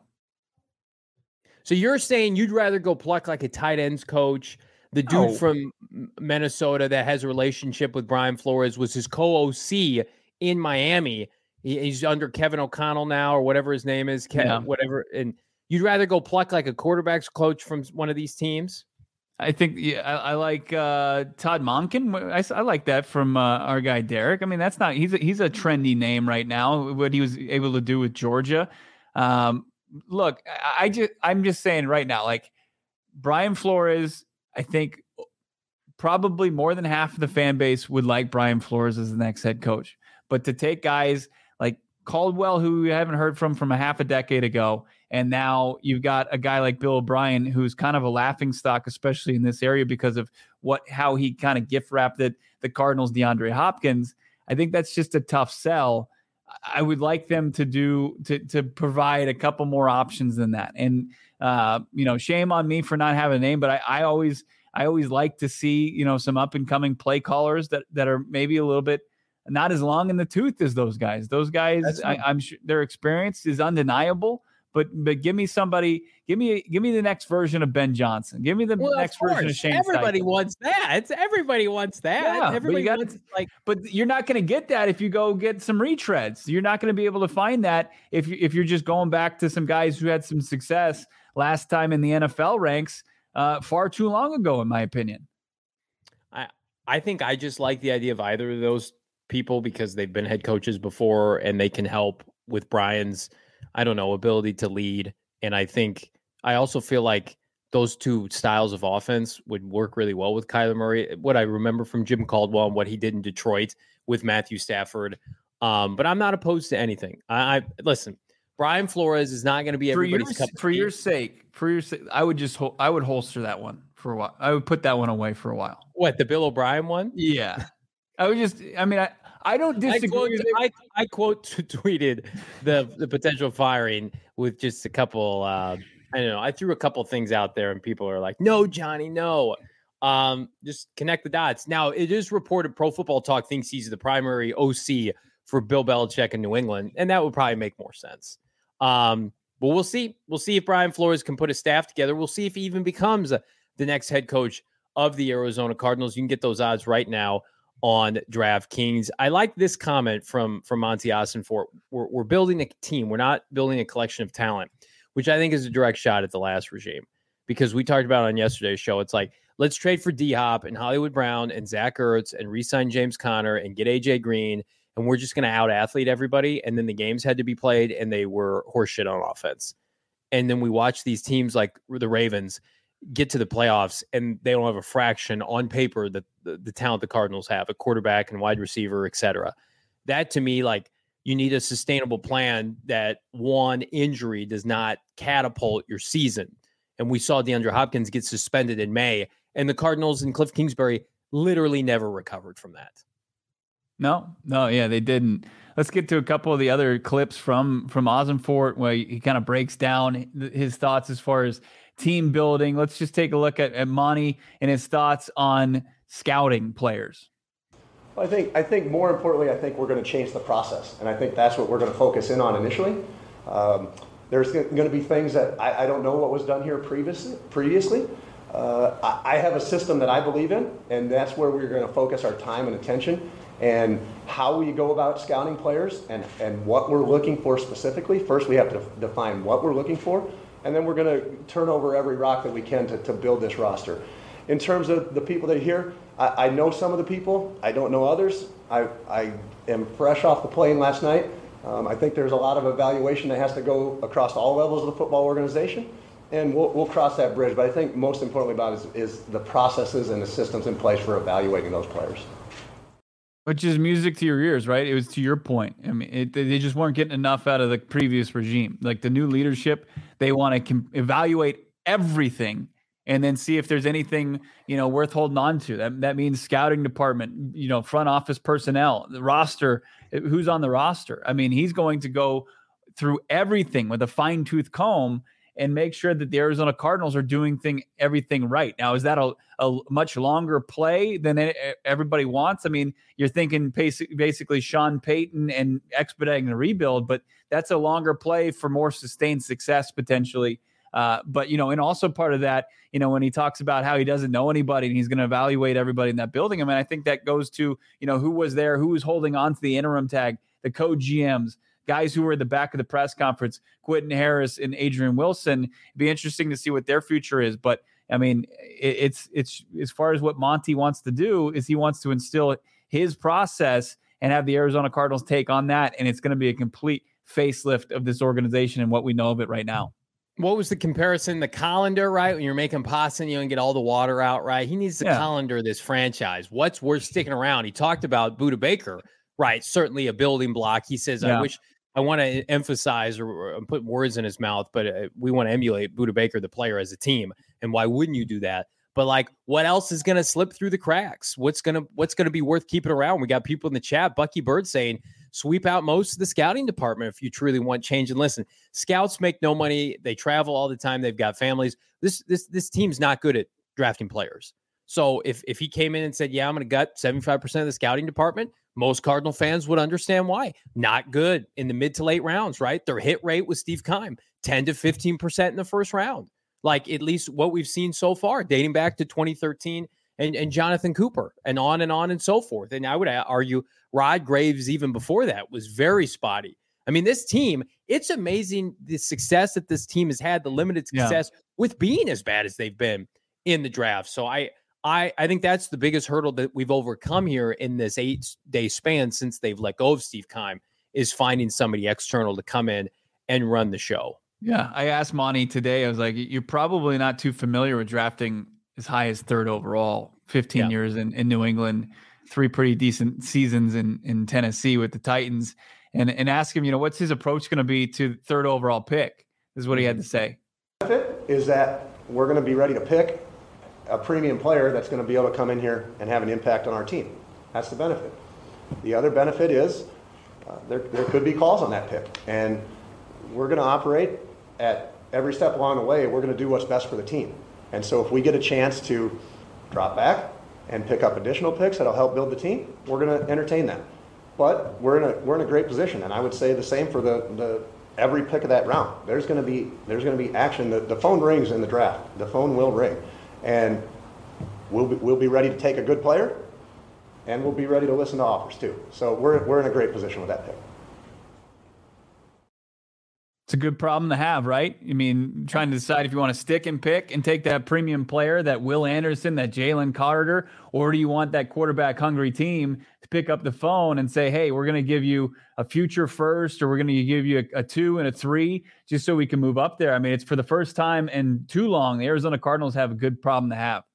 So you're saying you'd rather go pluck like a tight ends coach? The dude from Minnesota that has a relationship with Brian Flores was his co-OC in Miami. He's under Kevin O'Connell now, or whatever his name is, whatever. And you'd rather go pluck like a quarterback's coach from one of these teams? I think I like Todd Monken. I like that from our guy Derek. I mean, he's a trendy name right now. What he was able to do with Georgia. Look, I'm just saying right now, like Brian Flores, I think probably more than half of the fan base would like Brian Flores as the next head coach. But to take guys like Caldwell, who we haven't heard from a half a decade ago, and now you've got a guy like Bill O'Brien, who's kind of a laughingstock, especially in this area because of how he kind of gift wrapped the Cardinals, DeAndre Hopkins. I think that's just a tough sell. I would like them to provide a couple more options than that. And shame on me for not having a name, but I always like to see some up and coming play callers that are maybe a little bit not as long in the tooth as those guys. Those guys, I'm sure their experience is undeniable. But give me somebody, give me the next version of Ben Johnson. Give me the next version of Shane Everybody Steichen. wants that. Everybody wants that. Yeah, everybody wants but you're not going to get that if you go get some retreads. You're not going to be able to find that if you're just going back to some guys who had some success last time in the NFL ranks far too long ago, in my opinion. I think I just like the idea of either of those people because they've been head coaches before and they can help with Brian's ability to lead. And I also feel like those two styles of offense would work really well with Kyler Murray. What I remember from Jim Caldwell and what he did in Detroit with Matthew Stafford. But I'm not opposed to anything. Listen, Brian Flores is not going to be everybody's cup of tea. For your sake, I would holster that one for a while. I would put that one away for a while. What, the Bill O'Brien one? Yeah. I don't disagree. I quote tweeted the potential firing with just a couple. I threw a couple things out there, and people are like, "No, Johnny, no." Just connect the dots. Now, it is reported Pro Football Talk thinks he's the primary OC for Bill Belichick in New England, and that would probably make more sense. But we'll see. We'll see if Brian Flores can put a staff together. We'll see if he even becomes the next head coach of the Arizona Cardinals. You can get those odds right now on DraftKings. I like this comment from Monty Ossenfort. We're building a team. We're not building a collection of talent, which I think is a direct shot at the last regime. Because we talked about on yesterday's show, it's like, let's trade for D-Hop and Hollywood Brown and Zach Ertz and re-sign James Conner and get A.J. Green, and we're just going to out-athlete everybody. And then the games had to be played, and they were horseshit on offense. And then we watch these teams like the Ravens get to the playoffs and they don't have a fraction on paper that the talent the Cardinals have, a quarterback and wide receiver, et cetera. That to me, like, you need a sustainable plan that one injury does not catapult your season. And we saw DeAndre Hopkins get suspended in May, and the Cardinals and Cliff Kingsbury literally never recovered from that. No, yeah, they didn't. Let's get to a couple of the other clips from Ossenfort where he kind of breaks down his thoughts as far as team building. Let's just take a look at Monty and his thoughts on scouting players. Well, I think more importantly, I think we're going to change the process, and I think that's what we're going to focus in on initially. There's going to be things that I don't know what was done here previously. I have a system that I believe in, and that's where we're going to focus our time and attention, and how we go about scouting players and what we're looking for specifically. First, we have to define what we're looking for, and then we're going to turn over every rock that we can to build this roster. In terms of the people that are here, I know some of the people. I don't know others. I am fresh off the plane last night. I think there's a lot of evaluation that has to go across all levels of the football organization, and we'll cross that bridge. But I think most importantly about it is the processes and the systems in place for evaluating those players. Which is music to your ears, right? It was to your point. I mean, they just weren't getting enough out of the previous regime. Like the new leadership, they want to evaluate everything and then see if there's anything, worth holding on to. That means scouting department, front office personnel, the roster, who's on the roster. I mean, he's going to go through everything with a fine-tooth comb and make sure that the Arizona Cardinals are doing everything right. Now, is that a much longer play than everybody wants? I mean, you're thinking basically Sean Payton and expediting the rebuild, but that's a longer play for more sustained success potentially. But, and also part of that, when he talks about how he doesn't know anybody and he's going to evaluate everybody in that building. I mean, I think that goes to, who was there, who was holding on to the interim tag, the co-GMs, guys who were at the back of the press conference, Quentin Harris and Adrian Wilson. It'd be interesting to see what their future is. But, I mean, it's as far as what Monty wants to do is he wants to instill his process and have the Arizona Cardinals take on that. And it's going to be a complete facelift of this organization and what we know of it right now. What was the comparison? The colander, right? When you're making pasta and you don't get all the water out, right? He needs to colander this franchise. What's worth sticking around? He talked about Budda Baker, right? Certainly a building block. He says, I want to emphasize or put words in his mouth, but we want to emulate Budda Baker, the player, as a team. And why wouldn't you do that? But like, what else is going to slip through the cracks? What's going to be worth keeping around? We got people in the chat, Bucky Bird saying, sweep out most of the scouting department if you truly want change. And listen, scouts make no money. They travel all the time. They've got families. This team's not good at drafting players. So if he came in and said, yeah, I'm going to gut 75% of the scouting department, most Cardinal fans would understand why. Not good in the mid to late rounds, right? Their hit rate with Steve Keim, 10 to 15% in the first round. Like at least what we've seen so far, dating back to 2013 and Jonathan Cooper and on and so forth. And I would argue Rod Graves, even before that, was very spotty. I mean, this team, it's amazing the success that this team has had, the limited success with being as bad as they've been in the draft. So I think that's the biggest hurdle that we've overcome here in this 8-day span since they've let go of Steve Keim, is finding somebody external to come in and run the show. Yeah, I asked Monty today, I was like, you're probably not too familiar with drafting as high as third overall, 15 years in New England, 3 pretty decent seasons in Tennessee with the Titans, and ask him, what's his approach going to be to third overall pick? This is what he had to say. The benefit is that we're going to be ready to pick a premium player that's going to be able to come in here and have an impact on our team. That's the benefit. The other benefit is there could be calls on that pick, and we're going to operate at every step along the way. We're going to do what's best for the team. And so if we get a chance to drop back and pick up additional picks that'll help build the team, we're going to entertain that. But we're in a great position, and I would say the same for the every pick of that round. There's going to be action. The phone rings in the draft. The phone will ring, and we'll be ready to take a good player, and we'll be ready to listen to offers too. So we're in a great position with that pick. It's a good problem to have, right? I mean, trying to decide if you want to stick and pick and take that premium player, that Will Anderson, that Jalen Carter, or do you want that quarterback hungry team to pick up the phone and say, hey, we're going to give you a future first, or we're going to give you a 2 and a 3 just so we can move up there. I mean, it's for the first time in too long, the Arizona Cardinals have a good problem to have.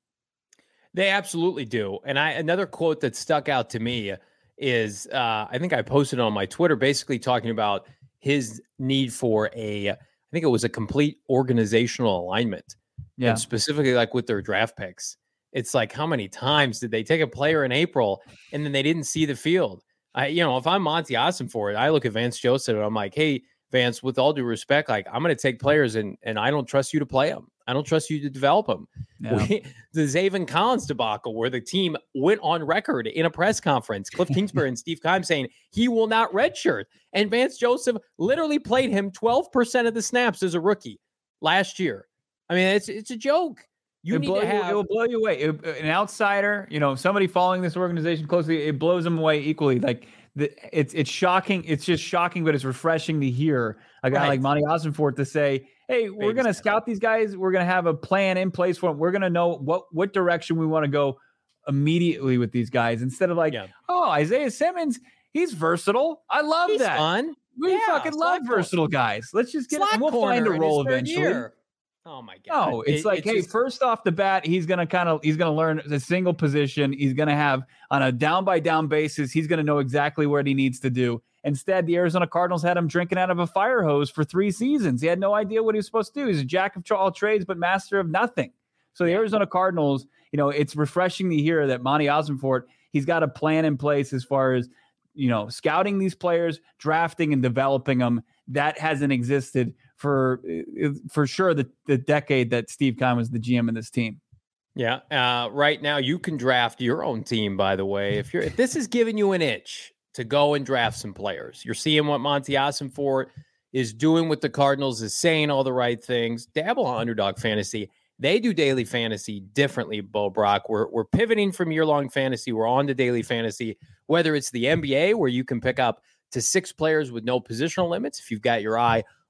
They absolutely do. And another quote that stuck out to me is, I think I posted on my Twitter, basically talking about his need for I think it was a complete organizational alignment. Yeah. And specifically like with their draft picks. It's like, how many times did they take a player in April and then they didn't see the field? If I'm Monty Ossenfort, I look at Vance Joseph and I'm like, hey, Vance, with all due respect, like I'm going to take players and I don't trust you to play them. I don't trust you to develop them. Yeah. The Zaven Collins debacle, where the team went on record in a press conference, Cliff Kingsbury and Steve Keim saying he will not redshirt. And Vance Joseph literally played him 12% of the snaps as a rookie last year. I mean, it's a joke. It will blow you away. An outsider, somebody following this organization closely, it blows them away equally. Like it's shocking. It's just shocking, but it's refreshing to hear a guy like Monty Ossenfort to say, hey, we're going to scout these guys. We're going to have a plan in place for them. We're going to know what direction we want to go immediately with these guys, instead of like, Isaiah Simmons, he's versatile. I love that. Fun. We fucking love versatile guys. Let's just get him. We'll find a role eventually. Year. Oh my God. No, it's first off the bat, he's going to learn a single position. He's going to have on a down by down basis. He's going to know exactly what he needs to do. Instead, the Arizona Cardinals had him drinking out of a fire hose for 3 seasons. He had no idea what he was supposed to do. He's a jack of all trades, but master of nothing. So the Arizona Cardinals, it's refreshing to hear that Monty Ossenfort, he's got a plan in place as far as, scouting these players, drafting and developing them. That hasn't existed for sure the decade that Steve Keim was the GM of this team. Yeah. Right now you can draft your own team, by the way. If this is giving you an itch to go and draft some players, you're seeing what Monty Ossenfort is doing with the Cardinals, is saying all the right things. Dabble on Underdog Fantasy. They do daily fantasy differently, Bo Brock. We're pivoting from year-long fantasy. We're on to daily fantasy, whether it's the NBA, where you can pick up to 6 players with no positional limits if you've got your eye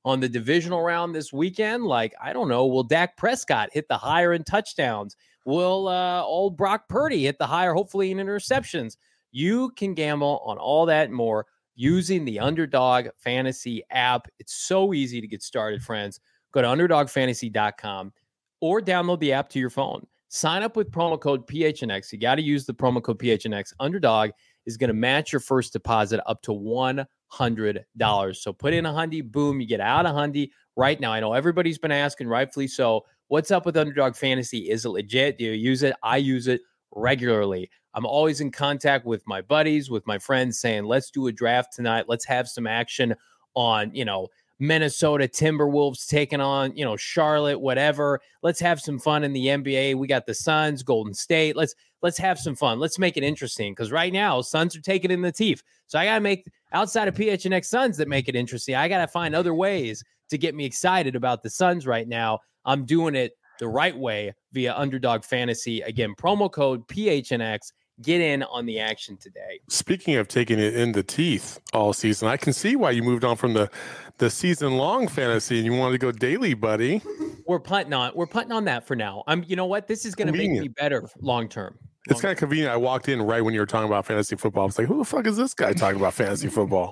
on the divisional round this weekend. Like, I don't know, will Dak Prescott hit the higher in touchdowns? Will old Brock Purdy hit the higher, hopefully, in interceptions? You can gamble on all that and more using the Underdog Fantasy app. It's so easy to get started, friends. Go to UnderdogFantasy.com or download the app to your phone. Sign up with promo code PHNX. You got to use the promo code PHNX. Underdog is going to match your first deposit up to $100. So put in $100, boom, you get out $100 right now. I know everybody's been asking, rightfully so, what's up with Underdog Fantasy? Is it legit? Do you use it? I use it regularly. I'm always in contact with my buddies, with my friends, saying, let's do a draft tonight. Let's have some action on, Minnesota Timberwolves taking on, Charlotte, whatever. Let's have some fun in the NBA. We got the Suns, Golden State. Let's have some fun. Let's make it interesting, because right now Suns are taking in the teeth. So I got to make, outside of PHNX Suns that make it interesting, I got to find other ways to get me excited about the Suns right now. I'm doing it the right way via Underdog Fantasy. Again, promo code PHNX. Get in on the action today. Speaking of taking it in the teeth all season, I can see why you moved on from the season-long fantasy and you wanted to go daily, buddy. We're punting on that for now. You know what? This is going to make me better long term. It's kind of convenient. I walked in right when you were talking about fantasy football. I was like, who the fuck is this guy talking about fantasy football?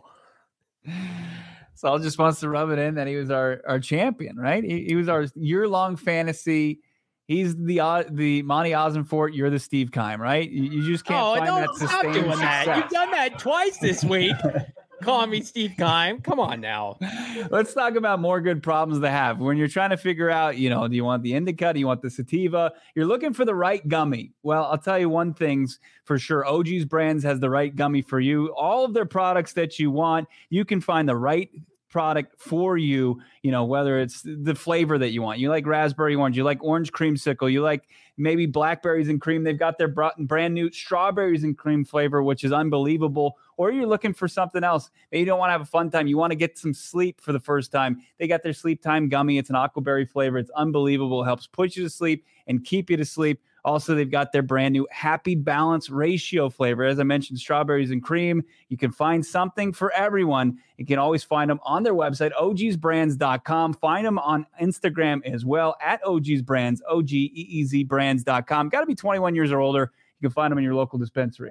Saul just wants to rub it in that he was our champion, right? He was our year-long fantasy. He's the Monty Ossenfort. You're the Steve Keim, right? You just can't find that sustained doing success. That. You've done that twice this week. Call me Steve Keim. Come on now. Let's talk about more good problems to have. When you're trying to figure out, do you want the indica? Do you want the sativa? You're looking for the right gummy. Well, I'll tell you one thing's for sure. OG's Brands has the right gummy for you. All of their products that you want, you can find the right product for you, whether it's the flavor that you want. You like raspberry orange, you like orange creamsicle, you like maybe blackberries and cream. They've got their brand new strawberries and cream flavor, which is unbelievable. Or you're looking for something else. Maybe you don't want to have a fun time. You want to get some sleep for the first time. They got their Sleep Time gummy. It's an aquaberry flavor. It's unbelievable. It helps put you to sleep and keep you to sleep. Also, they've got their brand new Happy Balance Ratio flavor. As I mentioned, strawberries and cream. You can find something for everyone. You can always find them on their website, ogsbrands.com. Find them on Instagram as well, at ogsbrands, OGEEZbrands.com. Got to be 21 years or older. You can find them in your local dispensary.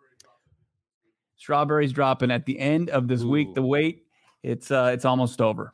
Strawberries dropping at the end of this week. The wait, it's almost over.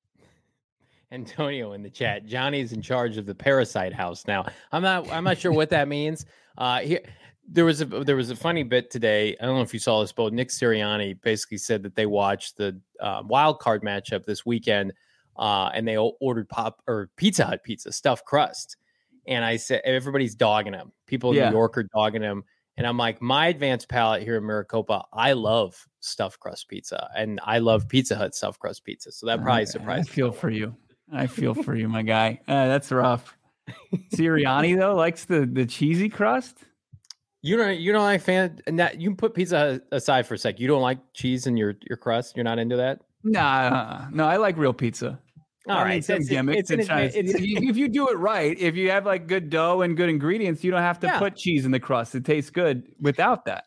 Antonio in the chat. Johnny's in charge of the Parasite House now. I'm not sure what that means. There was a funny bit today. I don't know if you saw this, but Nick Sirianni basically said that they watched the wild card matchup this weekend, and they ordered Pizza Hut pizza, stuffed crust. And I said everybody's dogging him. People in New York are dogging him. And I'm like, my advanced palate here in Maricopa, I love stuffed crust pizza, and I love Pizza Hut stuffed crust pizza. So that probably surprised me. I feel for you, my guy. That's rough. Sirianni though likes the cheesy crust. You don't like you can put pizza Hut aside for a sec. You don't like cheese in your crust. You're not into that. Nah, no, I like real pizza. All right, some gimmicks. If you do it right, if you have like good dough and good ingredients, you don't have to put cheese in the crust. It tastes good without that.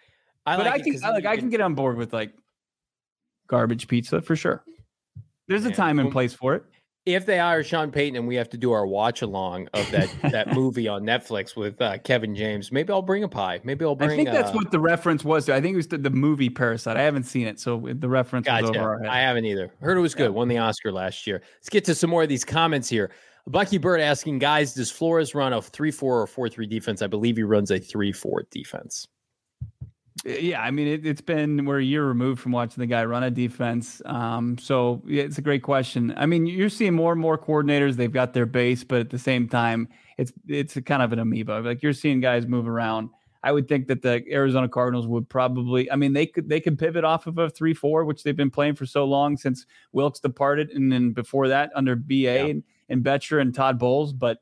I can get on board with like garbage pizza for sure. There's a time and place for it. If they hire Sean Payton and we have to do our watch along of that movie on Netflix with Kevin James, maybe I'll bring a pie. Maybe I'll bring. I think that's what the reference was to. I think it was the movie Parasite. I haven't seen it, so the reference was over our head. I haven't either. Heard it was good. Won the Oscar last year. Let's get to some more of these comments here. Bucky Bird asking, guys, does Flores run a 3-4 or 4-3 defense? I believe he runs a 3-4 defense. Yeah, I mean, we're a year removed from watching the guy run a defense. So yeah, it's a great question. I mean, you're seeing more and more coordinators. They've got their base, but at the same time, it's a kind of an amoeba. Like you're seeing guys move around. I would think that the Arizona Cardinals would probably, I mean, they could pivot off of a 3-4, which they've been playing for so long since Wilkes departed. And then before that under BA and Betcher and Todd Bowles. But,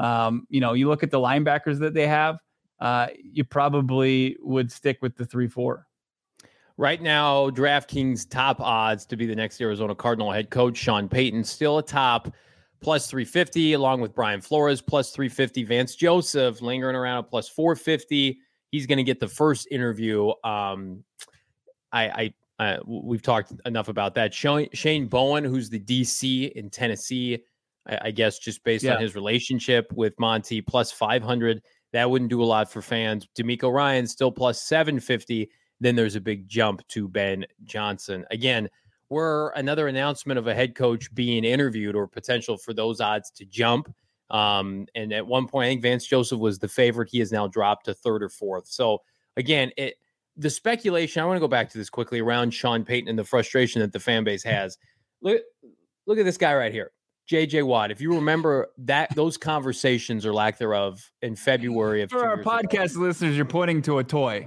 you look at the linebackers that they have, you probably would stick with the 3-4. Right now, DraftKings top odds to be the next Arizona Cardinal head coach, Sean Payton, still a top plus 350, along with Brian Flores, plus 350. Vance Joseph lingering around at plus 450. He's going to get the first interview. I We've talked enough about that. Shane Bowen, who's the DC in Tennessee, I guess just based on his relationship with Monty, plus 500. That wouldn't do a lot for fans. D'Amico Ryan still plus 750. Then there's a big jump to Ben Johnson. Again, we're another announcement of a head coach being interviewed or potential for those odds to jump. And at one point, I think Vance Joseph was the favorite. He has now dropped to third or fourth. So again, the speculation, I want to go back to this quickly around Sean Payton and the frustration that the fan base has. Look at this guy right here, JJ Watt. If you remember those conversations or lack thereof in February of for our podcast listeners, you're pointing to a toy.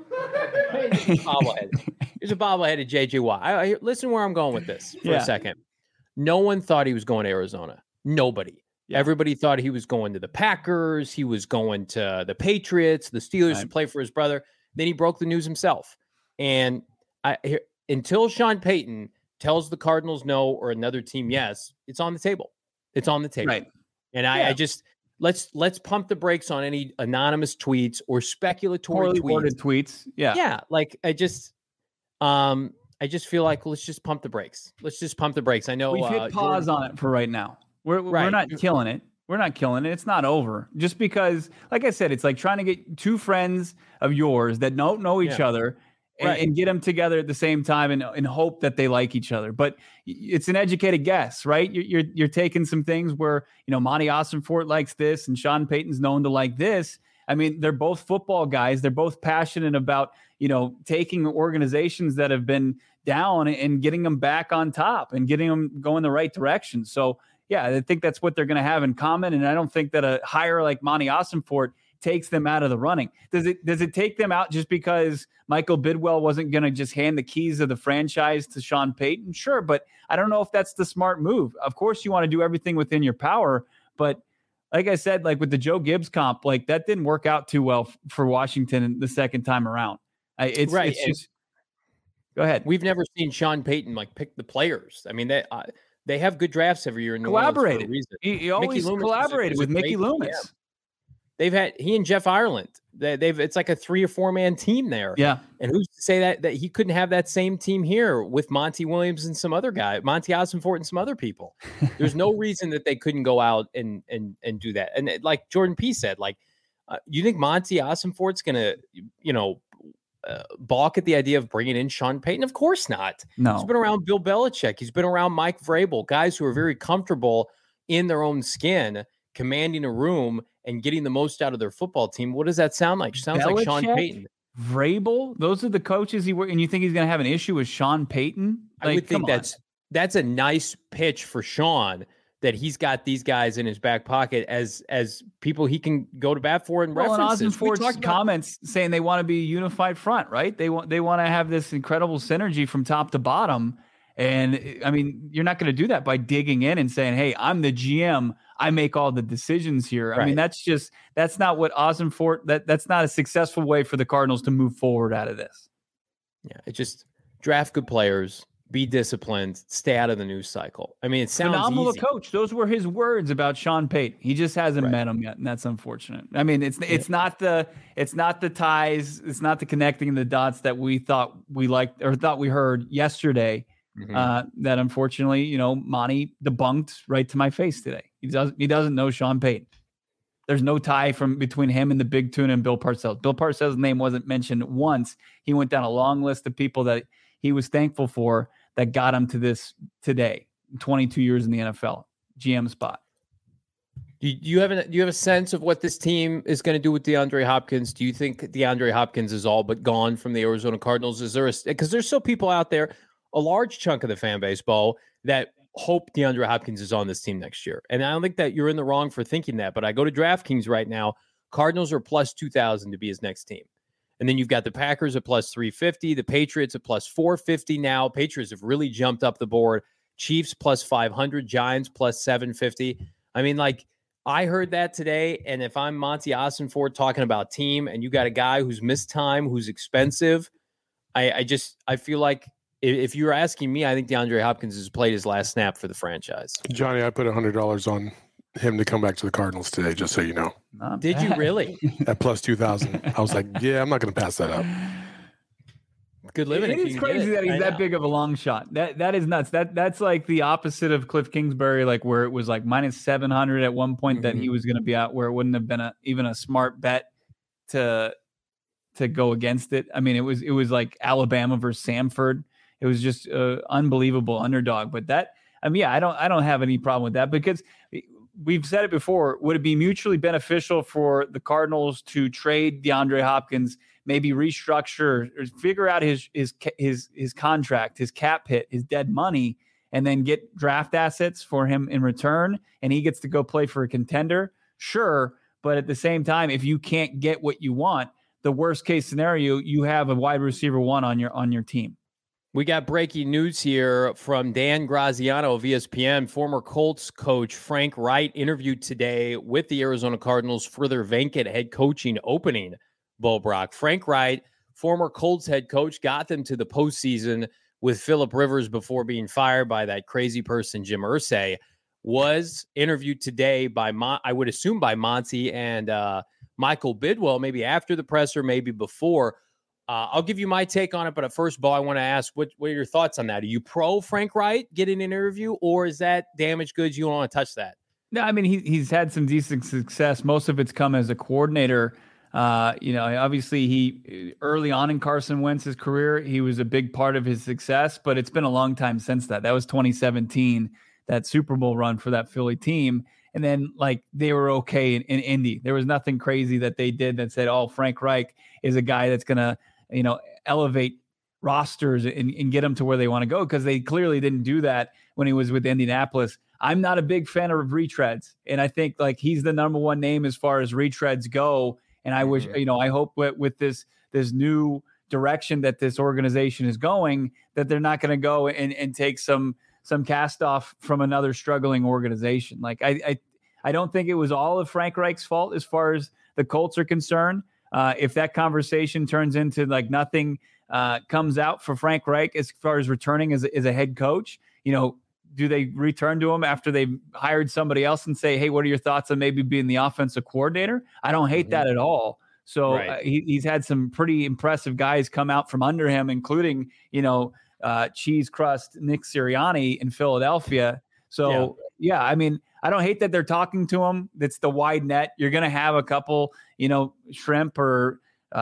Here's a bobblehead of JJ Watt. Listen where I'm going with this for a second. No one thought he was going to Arizona. Nobody. Yeah. Everybody thought he was going to the Packers. He was going to the Patriots, the Steelers to play for his brother. Then he broke the news himself. And until Sean Payton tells the Cardinals no or another team yes, it's on the table. It's on the table. Right. And I just let's pump the brakes on any anonymous tweets or speculatory tweets. Yeah. Yeah. Like I just feel like let's just pump the brakes. I know we've hit pause on it for right now. We're not killing it. We're not killing it. It's not over. Just because, like I said, it's like trying to get two friends of yours that don't know each other and get them together at the same time and hope that they like each other. But it's an educated guess, right? You're taking some things where, Monty Ossenfort likes this and Sean Payton's known to like this. I mean, they're both football guys. They're both passionate about, taking organizations that have been down and getting them back on top and getting them going the right direction. So, yeah, I think that's what they're going to have in common. And I don't think that a hire like Monty Ossenfort takes them out of the running. Does it take them out just because Michael Bidwell wasn't going to just hand the keys of the franchise to Sean Payton? Sure, but I don't know if that's the smart move. Of course, you want to do everything within your power, but like I said, like with the Joe Gibbs comp, like that didn't work out too well for Washington the second time around. It's just go ahead. We've never seen Sean Payton like pick the players. I mean, they have good drafts every year in New collaborated. Orleans for a reason. He always collaborated with Mickey Loomis. Yeah. They've had he and Jeff Ireland. It's like a 3 or 4 man team there. Yeah. And who's to say that he couldn't have that same team here with Monty Williams and some other guy, Monty Ossenfort and some other people. There's no reason that they couldn't go out and do that. And like Jordan P said, like, you think Monty Ossenfort's going to, balk at the idea of bringing in Sean Payton? Of course not. No. He's been around Bill Belichick. He's been around Mike Vrabel, guys who are very comfortable in their own skin, commanding a room and getting the most out of their football team. What does that sound like? Sounds Belichick, like Sean Payton. Vrabel, those are the coaches and you think he's going to have an issue with Sean Payton? Like, I would think that's a nice pitch for Sean, that he's got these guys in his back pocket as people he can go to bat for and references. And Ossenfort's comments saying they want to be a unified front, right? They want to have this incredible synergy from top to bottom. And I mean, you're not going to do that by digging in and saying, "Hey, I'm the GM. I make all the decisions here." Right. I mean, that's not what Ossenfort. That's not a successful way for the Cardinals to move forward out of this. Yeah, it just draft good players. Be disciplined, stay out of the news cycle. I mean, it sounds phenomenal easy. Coach. Those were his words about Sean Payton. He just hasn't met him yet, and that's unfortunate. I mean, it's not the ties, it's not the connecting the dots that we thought we liked or thought we heard yesterday. That unfortunately, Monty debunked right to my face today. He doesn't know Sean Payton. There's no tie between him and the Big Tuna and Bill Parcells. Bill Parcells' name wasn't mentioned once. He went down a long list of people that he was thankful for that got him to this today. 22 years in the NFL, GM spot. Do you have a sense of what this team is going to do with DeAndre Hopkins? Do you think DeAndre Hopkins is all but gone from the Arizona Cardinals? Because there's still people out there, a large chunk of the fan base, Bo, that hope DeAndre Hopkins is on this team next year. And I don't think that you're in the wrong for thinking that, but I go to DraftKings right now. Cardinals are plus 2,000 to be his next team. And then you've got the Packers at plus 350, the Patriots at plus 450 now. Patriots have really jumped up the board. Chiefs plus 500, Giants plus 750. I mean, like, I heard that today, and if I'm Monty Ossenfort talking about team, and you got a guy who's missed time, who's expensive, I feel like if you're asking me, I think DeAndre Hopkins has played his last snap for the franchise. Johnny, I put $100 on him to come back to the Cardinals today, just so you know. Did you really? At plus 2,000. I was like, yeah, I'm not going to pass that up. Good living. It is crazy that he's that big of a long shot. That is nuts. That's like the opposite of Cliff Kingsbury, like where it was like minus 700 at one point that he was going to be out, where it wouldn't have been even a smart bet to go against it. I mean, it was like Alabama versus Samford. It was just unbelievable underdog. But I don't have any problem with that, because we've said it before. Would it be mutually beneficial for the Cardinals to trade DeAndre Hopkins, maybe restructure or figure out his contract, his cap hit, his dead money, and then get draft assets for him in return, and he gets to go play for a contender? Sure. But at the same time, if you can't get what you want, the worst case scenario, you have a wide receiver one on your team. We got breaking news here from Dan Graziano of ESPN. Former Colts coach Frank Reich interviewed today with the Arizona Cardinals for their vacant head coaching opening. Bo Brock. Frank Reich, former Colts head coach, got them to the postseason with Phillip Rivers before being fired by that crazy person, Jim Irsay. Was interviewed today by, I would assume, by Monty and Michael Bidwell, maybe after the presser, maybe before. I'll give you my take on it, but at first, Bo, I want to ask, what are your thoughts on that? Are you pro Frank Reich getting an interview, or is that damaged goods? You don't want to touch that? No, I mean, he's had some decent success. Most of it's come as a coordinator. Obviously he early on in Carson Wentz's career, he was a big part of his success, but it's been a long time since that. That was 2017, that Super Bowl run for that Philly team. And then like they were okay in Indy. There was nothing crazy that they did that said, oh, Frank Reich is a guy that's going to, elevate rosters and get them to where they want to go, because they clearly didn't do that when he was with Indianapolis. I'm not a big fan of retreads. And I think like he's the number one name as far as retreads go. And I wish, I hope with this new direction that this organization is going, that they're not going to go and take some cast off from another struggling organization. Like I don't think it was all of Frank Reich's fault as far as the Colts are concerned. If that conversation turns into like nothing comes out for Frank Reich as far as returning as a head coach, do they return to him after they've hired somebody else and say, hey, what are your thoughts on maybe being the offensive coordinator? I don't hate that at all. So right. He's had some pretty impressive guys come out from under him, including, cheese crust Nick Sirianni in Philadelphia. So, yeah, I mean, I don't hate that they're talking to him. That's the wide net. You're going to have a couple, shrimp or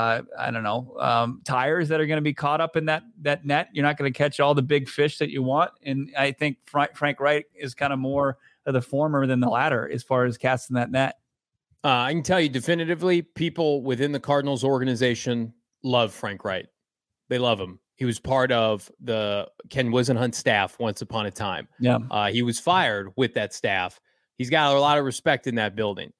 tires that are going to be caught up in that net. You're not going to catch all the big fish that you want. And I think Frank Reich is kind of more of the former than the latter as far as casting that net. I can tell you definitively, people within the Cardinals organization love Frank Reich. They love him. He was part of the Ken Wisenhunt staff once upon a time. Yeah. He was fired with that staff. He's got a lot of respect in that building.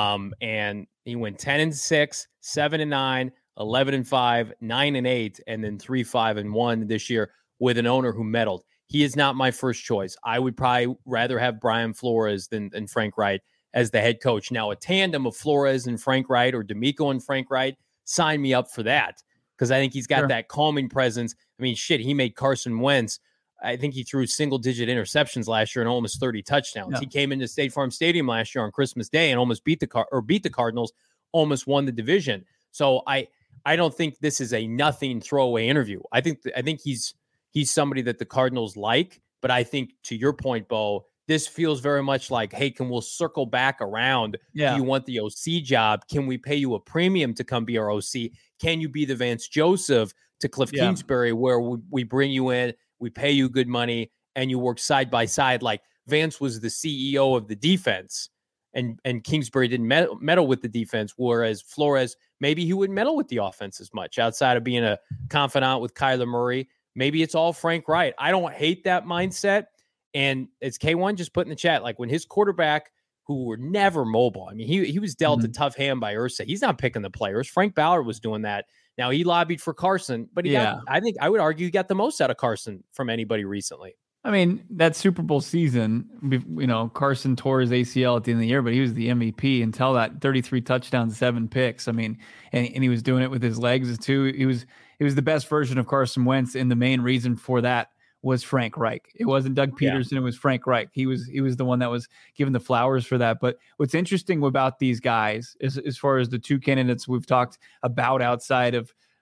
And he went 10-6, 7-9, 11-5, 9-8, and then 3-5-1 this year with an owner who meddled. He is not my first choice. I would probably rather have Brian Flores than Frank Reich as the head coach. Now, a tandem of Flores and Frank Reich, or D'Amico and Frank Reich, sign me up for that, because I think he's got that calming presence. I mean, shit, he made Carson Wentz. I think he threw single-digit interceptions last year and almost 30 touchdowns. Yeah. He came into State Farm Stadium last year on Christmas Day and almost beat the Cardinals, almost won the division. So I don't think this is a nothing throwaway interview. I think he's somebody that the Cardinals like, but I think, to your point, Bo, this feels very much like, hey, we'll circle back around? Yeah. Do you want the OC job? Can we pay you a premium to come be our OC? Can you be the Vance Joseph to Cliff Kingsbury, where we bring you in, we pay you good money, and you work side by side? Like Vance was the CEO of the defense, and Kingsbury didn't meddle with the defense, whereas Flores, maybe he wouldn't meddle with the offense as much outside of being a confidant with Kyler Murray. Maybe it's all Frank Reich. I don't hate that mindset. And it's K1 just put in the chat, like when his quarterback, who were never mobile, I mean, he was dealt a tough hand by Irsay. He's not picking the players. Frank Ballard was doing that. Now, he lobbied for Carson, but I would argue he got the most out of Carson from anybody recently. I mean, that Super Bowl season, Carson tore his ACL at the end of the year, but he was the MVP until that 33 touchdowns, 7 picks. I mean, and he was doing it with his legs too. He was the best version of Carson Wentz, and the main reason for that was Frank Reich. It wasn't Doug Peterson. It was Frank Reich. He was the one that was given the flowers for that. But what's interesting about these guys is, as far as the two candidates we've talked about outside of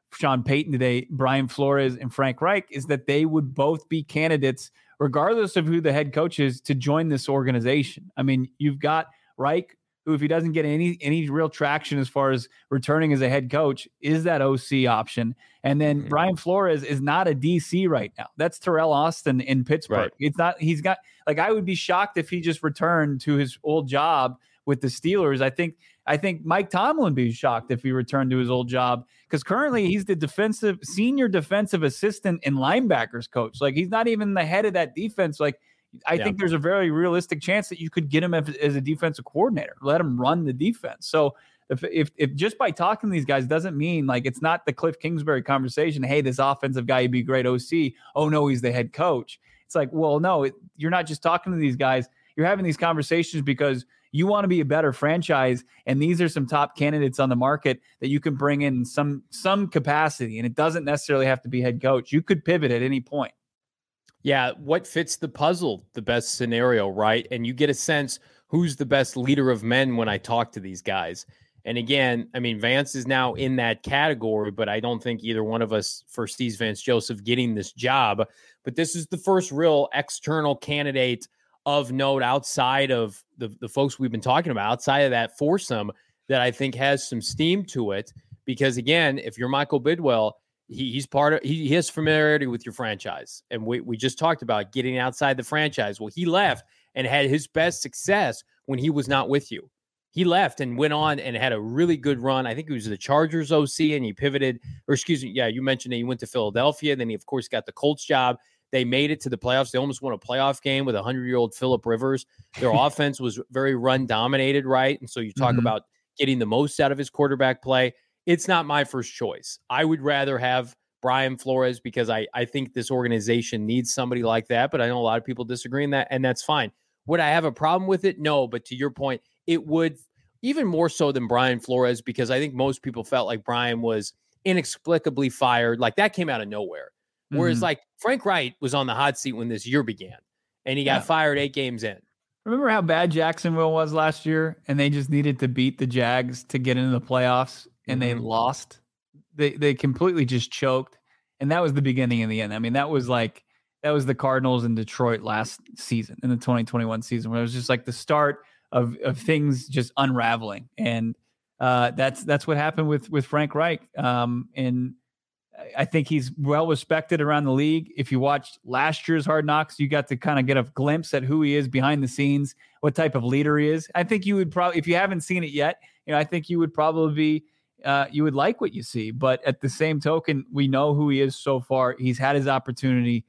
Sean Payton today, Brian Flores and Frank Reich, is that they would both be candidates, regardless of who the head coach is, to join this organization. I mean, you've got Reich, who, if he doesn't get any real traction as far as returning as a head coach, is that OC option. And then Brian Flores is not a DC right now. That's Terrell Austin in Pittsburgh. Right. It's not, he's got, like, I would be shocked if he just returned to his old job with the Steelers. I think Mike Tomlin would be shocked if he returned to his old job, because currently he's the senior defensive assistant and linebackers coach. Like, he's not even the head of that defense. Like, I think there's a very realistic chance that you could get him as a defensive coordinator, let him run the defense. So if just by talking to these guys doesn't mean, like, it's not the Cliff Kingsbury conversation. Hey, this offensive guy, he'd be great OC. Oh no, he's the head coach. It's like, well, no, you're not just talking to these guys. You're having these conversations because you want to be a better franchise, and these are some top candidates on the market that you can bring in some capacity, and it doesn't necessarily have to be head coach. You could pivot at any point. Yeah, what fits the puzzle, the best scenario, right? And you get a sense who's the best leader of men when I talk to these guys. And again, I mean, Vance is now in that category, but I don't think either one of us foresees Vance Joseph getting this job. But this is the first real external candidate of note outside of the folks we've been talking about, outside of that foursome, that I think has some steam to it. Because again, if you're Michael Bidwell, he has familiarity with your franchise. And we just talked about getting outside the franchise. Well, he left and had his best success when he was not with you. He left and went on and had a really good run. I think he was the Chargers OC, and he pivoted, or excuse me, yeah, you mentioned that he went to Philadelphia. Then he, of course, got the Colts job. They made it to the playoffs. They almost won a playoff game with 100-year-old Phillip Rivers. Their offense was very run-dominated, right? And so you talk about getting the most out of his quarterback play. It's not my first choice. I would rather have Brian Flores because I think this organization needs somebody like that, but I know a lot of people disagree in that, and that's fine. Would I have a problem with it? No, but to your point, it would, even more so than Brian Flores, because I think most people felt like Brian was inexplicably fired. Like, that came out of nowhere. Whereas like Frank Reich was on the hot seat when this year began, and he got fired 8 games in. Remember how bad Jacksonville was last year, and they just needed to beat the Jags to get into the playoffs, and they lost? They completely just choked, and that was the beginning and the end. I mean, that was the Cardinals in Detroit last season, in the 2021 season, where it was just like the start of things just unraveling, and that's what happened with Frank Reich. And I think he's well respected around the league. If you watched last year's Hard Knocks, you got to kind of get a glimpse at who he is behind the scenes, what type of leader he is. I think you would probably, if you haven't seen it yet, I think you would probably be, you would like what you see. But at the same token, we know who he is so far. He's had his opportunity.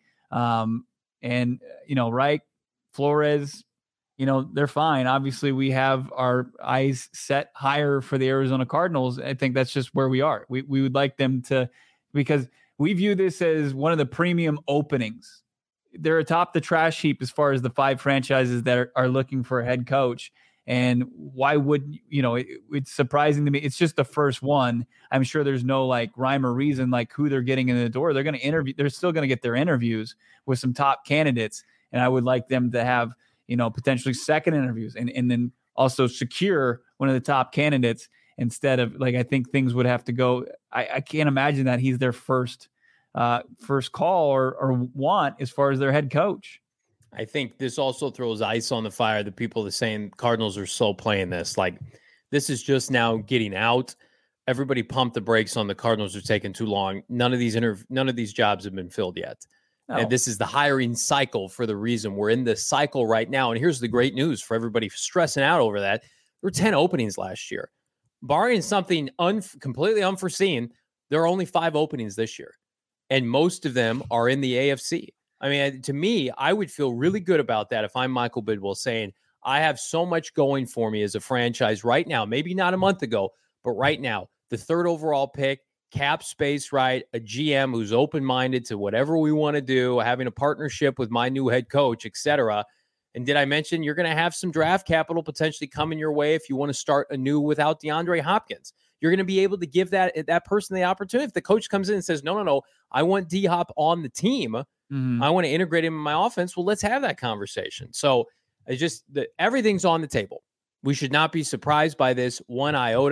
Reich, Flores, they're fine. Obviously, we have our eyes set higher for the Arizona Cardinals. I think that's just where we are. We would like them to, because we view this as one of the premium openings. They're atop the trash heap as far as the 5 franchises that are looking for a head coach. And why would, it's surprising to me. It's just the first one. I'm sure there's no like rhyme or reason, like who they're getting in the door. They're going to interview. They're still going to get their interviews with some top candidates. And I would like them to have, potentially second interviews and then also secure one of the top candidates instead of, like, I think things would have to go. I can't imagine that he's their first call or want as far as their head coach. I think this also throws ice on the fire. The people that are saying Cardinals are so playing this. Like, this is just now getting out. Everybody pumped the brakes on the Cardinals are taking too long. None of these jobs have been filled yet. No. And this is the hiring cycle for the reason. We're in this cycle right now. And here's the great news for everybody stressing out over that. There were 10 openings last year. Barring something completely unforeseen, there are only 5 openings this year. And most of them are in the AFC. I mean, to me, I would feel really good about that if I'm Michael Bidwell, saying, I have so much going for me as a franchise right now, maybe not a month ago, but right now, the 3rd overall pick, cap space, right? A GM who's open-minded to whatever we want to do, having a partnership with my new head coach, etc. And did I mention you're going to have some draft capital potentially coming your way if you want to start anew without DeAndre Hopkins? You're going to be able to give that person the opportunity. If the coach comes in and says, no, I want D-Hop on the team, I want to integrate him in my offense, well, let's have that conversation. So it's just everything's on the table. We should not be surprised by this one iota.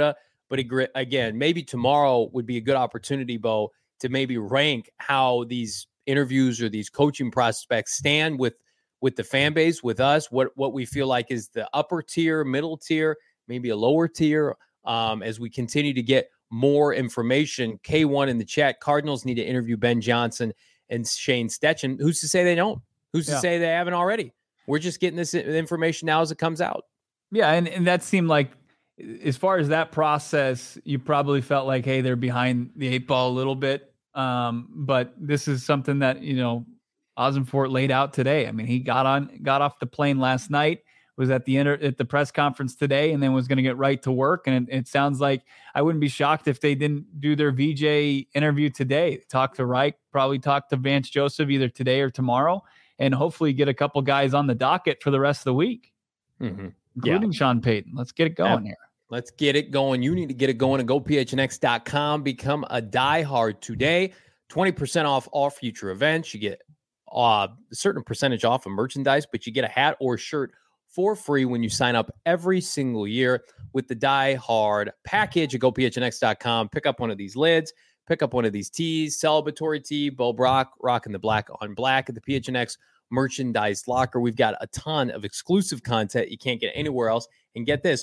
But again, maybe tomorrow would be a good opportunity, Bo, to maybe rank how these interviews or these coaching prospects stand with the fan base, with us, what we feel like is the upper tier, middle tier, maybe a lower tier, as we continue to get more information. K1 in the chat, Cardinals need to interview Ben Johnson and Shane Steichen. Who's to say they don't? Who's to say they haven't already? We're just getting this information now as it comes out. Yeah, and that seemed like, as far as that process, you probably felt like, hey, they're behind the 8 ball a little bit. But this is something that, Ossenfort laid out today. I mean, he got off the plane last night, was at the press conference today, and then was going to get right to work. And it sounds like I wouldn't be shocked if they didn't do their VJ interview today. Talk to Reich, probably talk to Vance Joseph either today or tomorrow, and hopefully get a couple guys on the docket for the rest of the week, including Sean Payton. Let's get it going here. Let's get it going. You need to get it going at gophnx.com. Become a diehard today. 20% off all future events. You get a certain percentage off of merchandise, but you get a hat or shirt for free when you sign up every single year with the Die Hard package at gophnx.com. Pick up one of these lids, pick up one of these tees, celebratory tee, Bo Brock, rocking the black on black at the PHNX merchandise locker. We've got a ton of exclusive content you can't get anywhere else. And get this,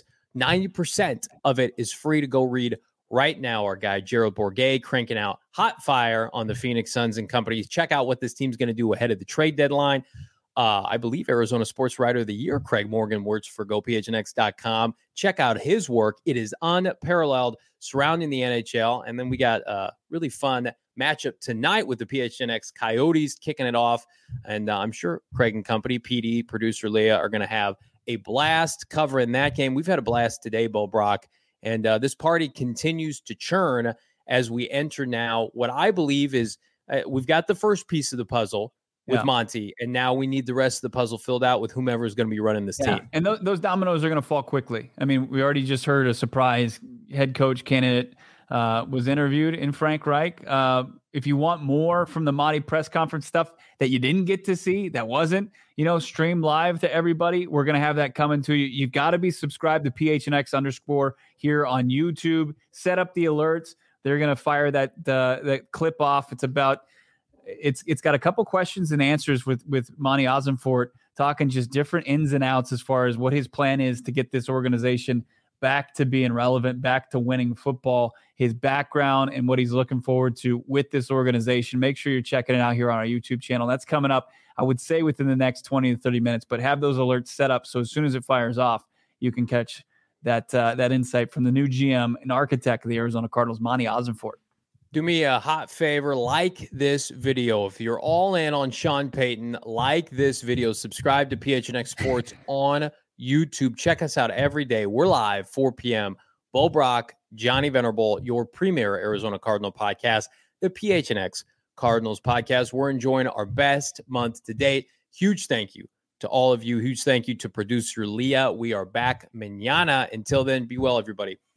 90% of it is free to go read right now. Our guy, Gerald Bourguet, cranking out hot fire on the Phoenix Suns and company. Check out what this team's going to do ahead of the trade deadline. I believe Arizona Sports Writer of the Year, Craig Morgan, works for gophnx.com. Check out his work. It is unparalleled surrounding the NHL. And then we got a really fun matchup tonight with the PHNX Coyotes kicking it off. And I'm sure Craig and company, PD, producer Leah, are going to have a blast covering that game. We've had a blast today, Bo Brock. And this party continues to churn as we enter now what I believe is we've got the first piece of the puzzle with Monty, and now we need the rest of the puzzle filled out with whomever is going to be running this team. And those dominoes are going to fall quickly. I mean, we already just heard a surprise head coach candidate was interviewed in Frank Reich. If you want more from the Monty press conference stuff that you didn't get to see, that wasn't, streamed live to everybody, we're going to have that coming to you. You've got to be subscribed to PHNX_ here on YouTube. Set up the alerts. They're going to fire that clip off. It's got a couple questions and answers with Monty Ossenfort, talking just different ins and outs as far as what his plan is to get this organization back to being relevant, back to winning football, his background, and what he's looking forward to with this organization. Make sure you're checking it out here on our YouTube channel. That's coming up, I would say, within the next 20 to 30 minutes, but have those alerts set up so as soon as it fires off, you can catch that insight from the new GM and architect of the Arizona Cardinals, Monty Ossenfort. Do me a hot favor, like this video. If you're all in on Sean Payton, like this video, subscribe to PHNX Sports on YouTube. Check us out every day. We're live, 4 p.m. Bo Brock, Johnny Venerable, your premier Arizona Cardinal podcast, the PHNX Cardinals podcast. We're enjoying our best month to date. Huge thank you to all of you. Huge thank you to producer Leah. We are back mañana. Until then, be well, everybody.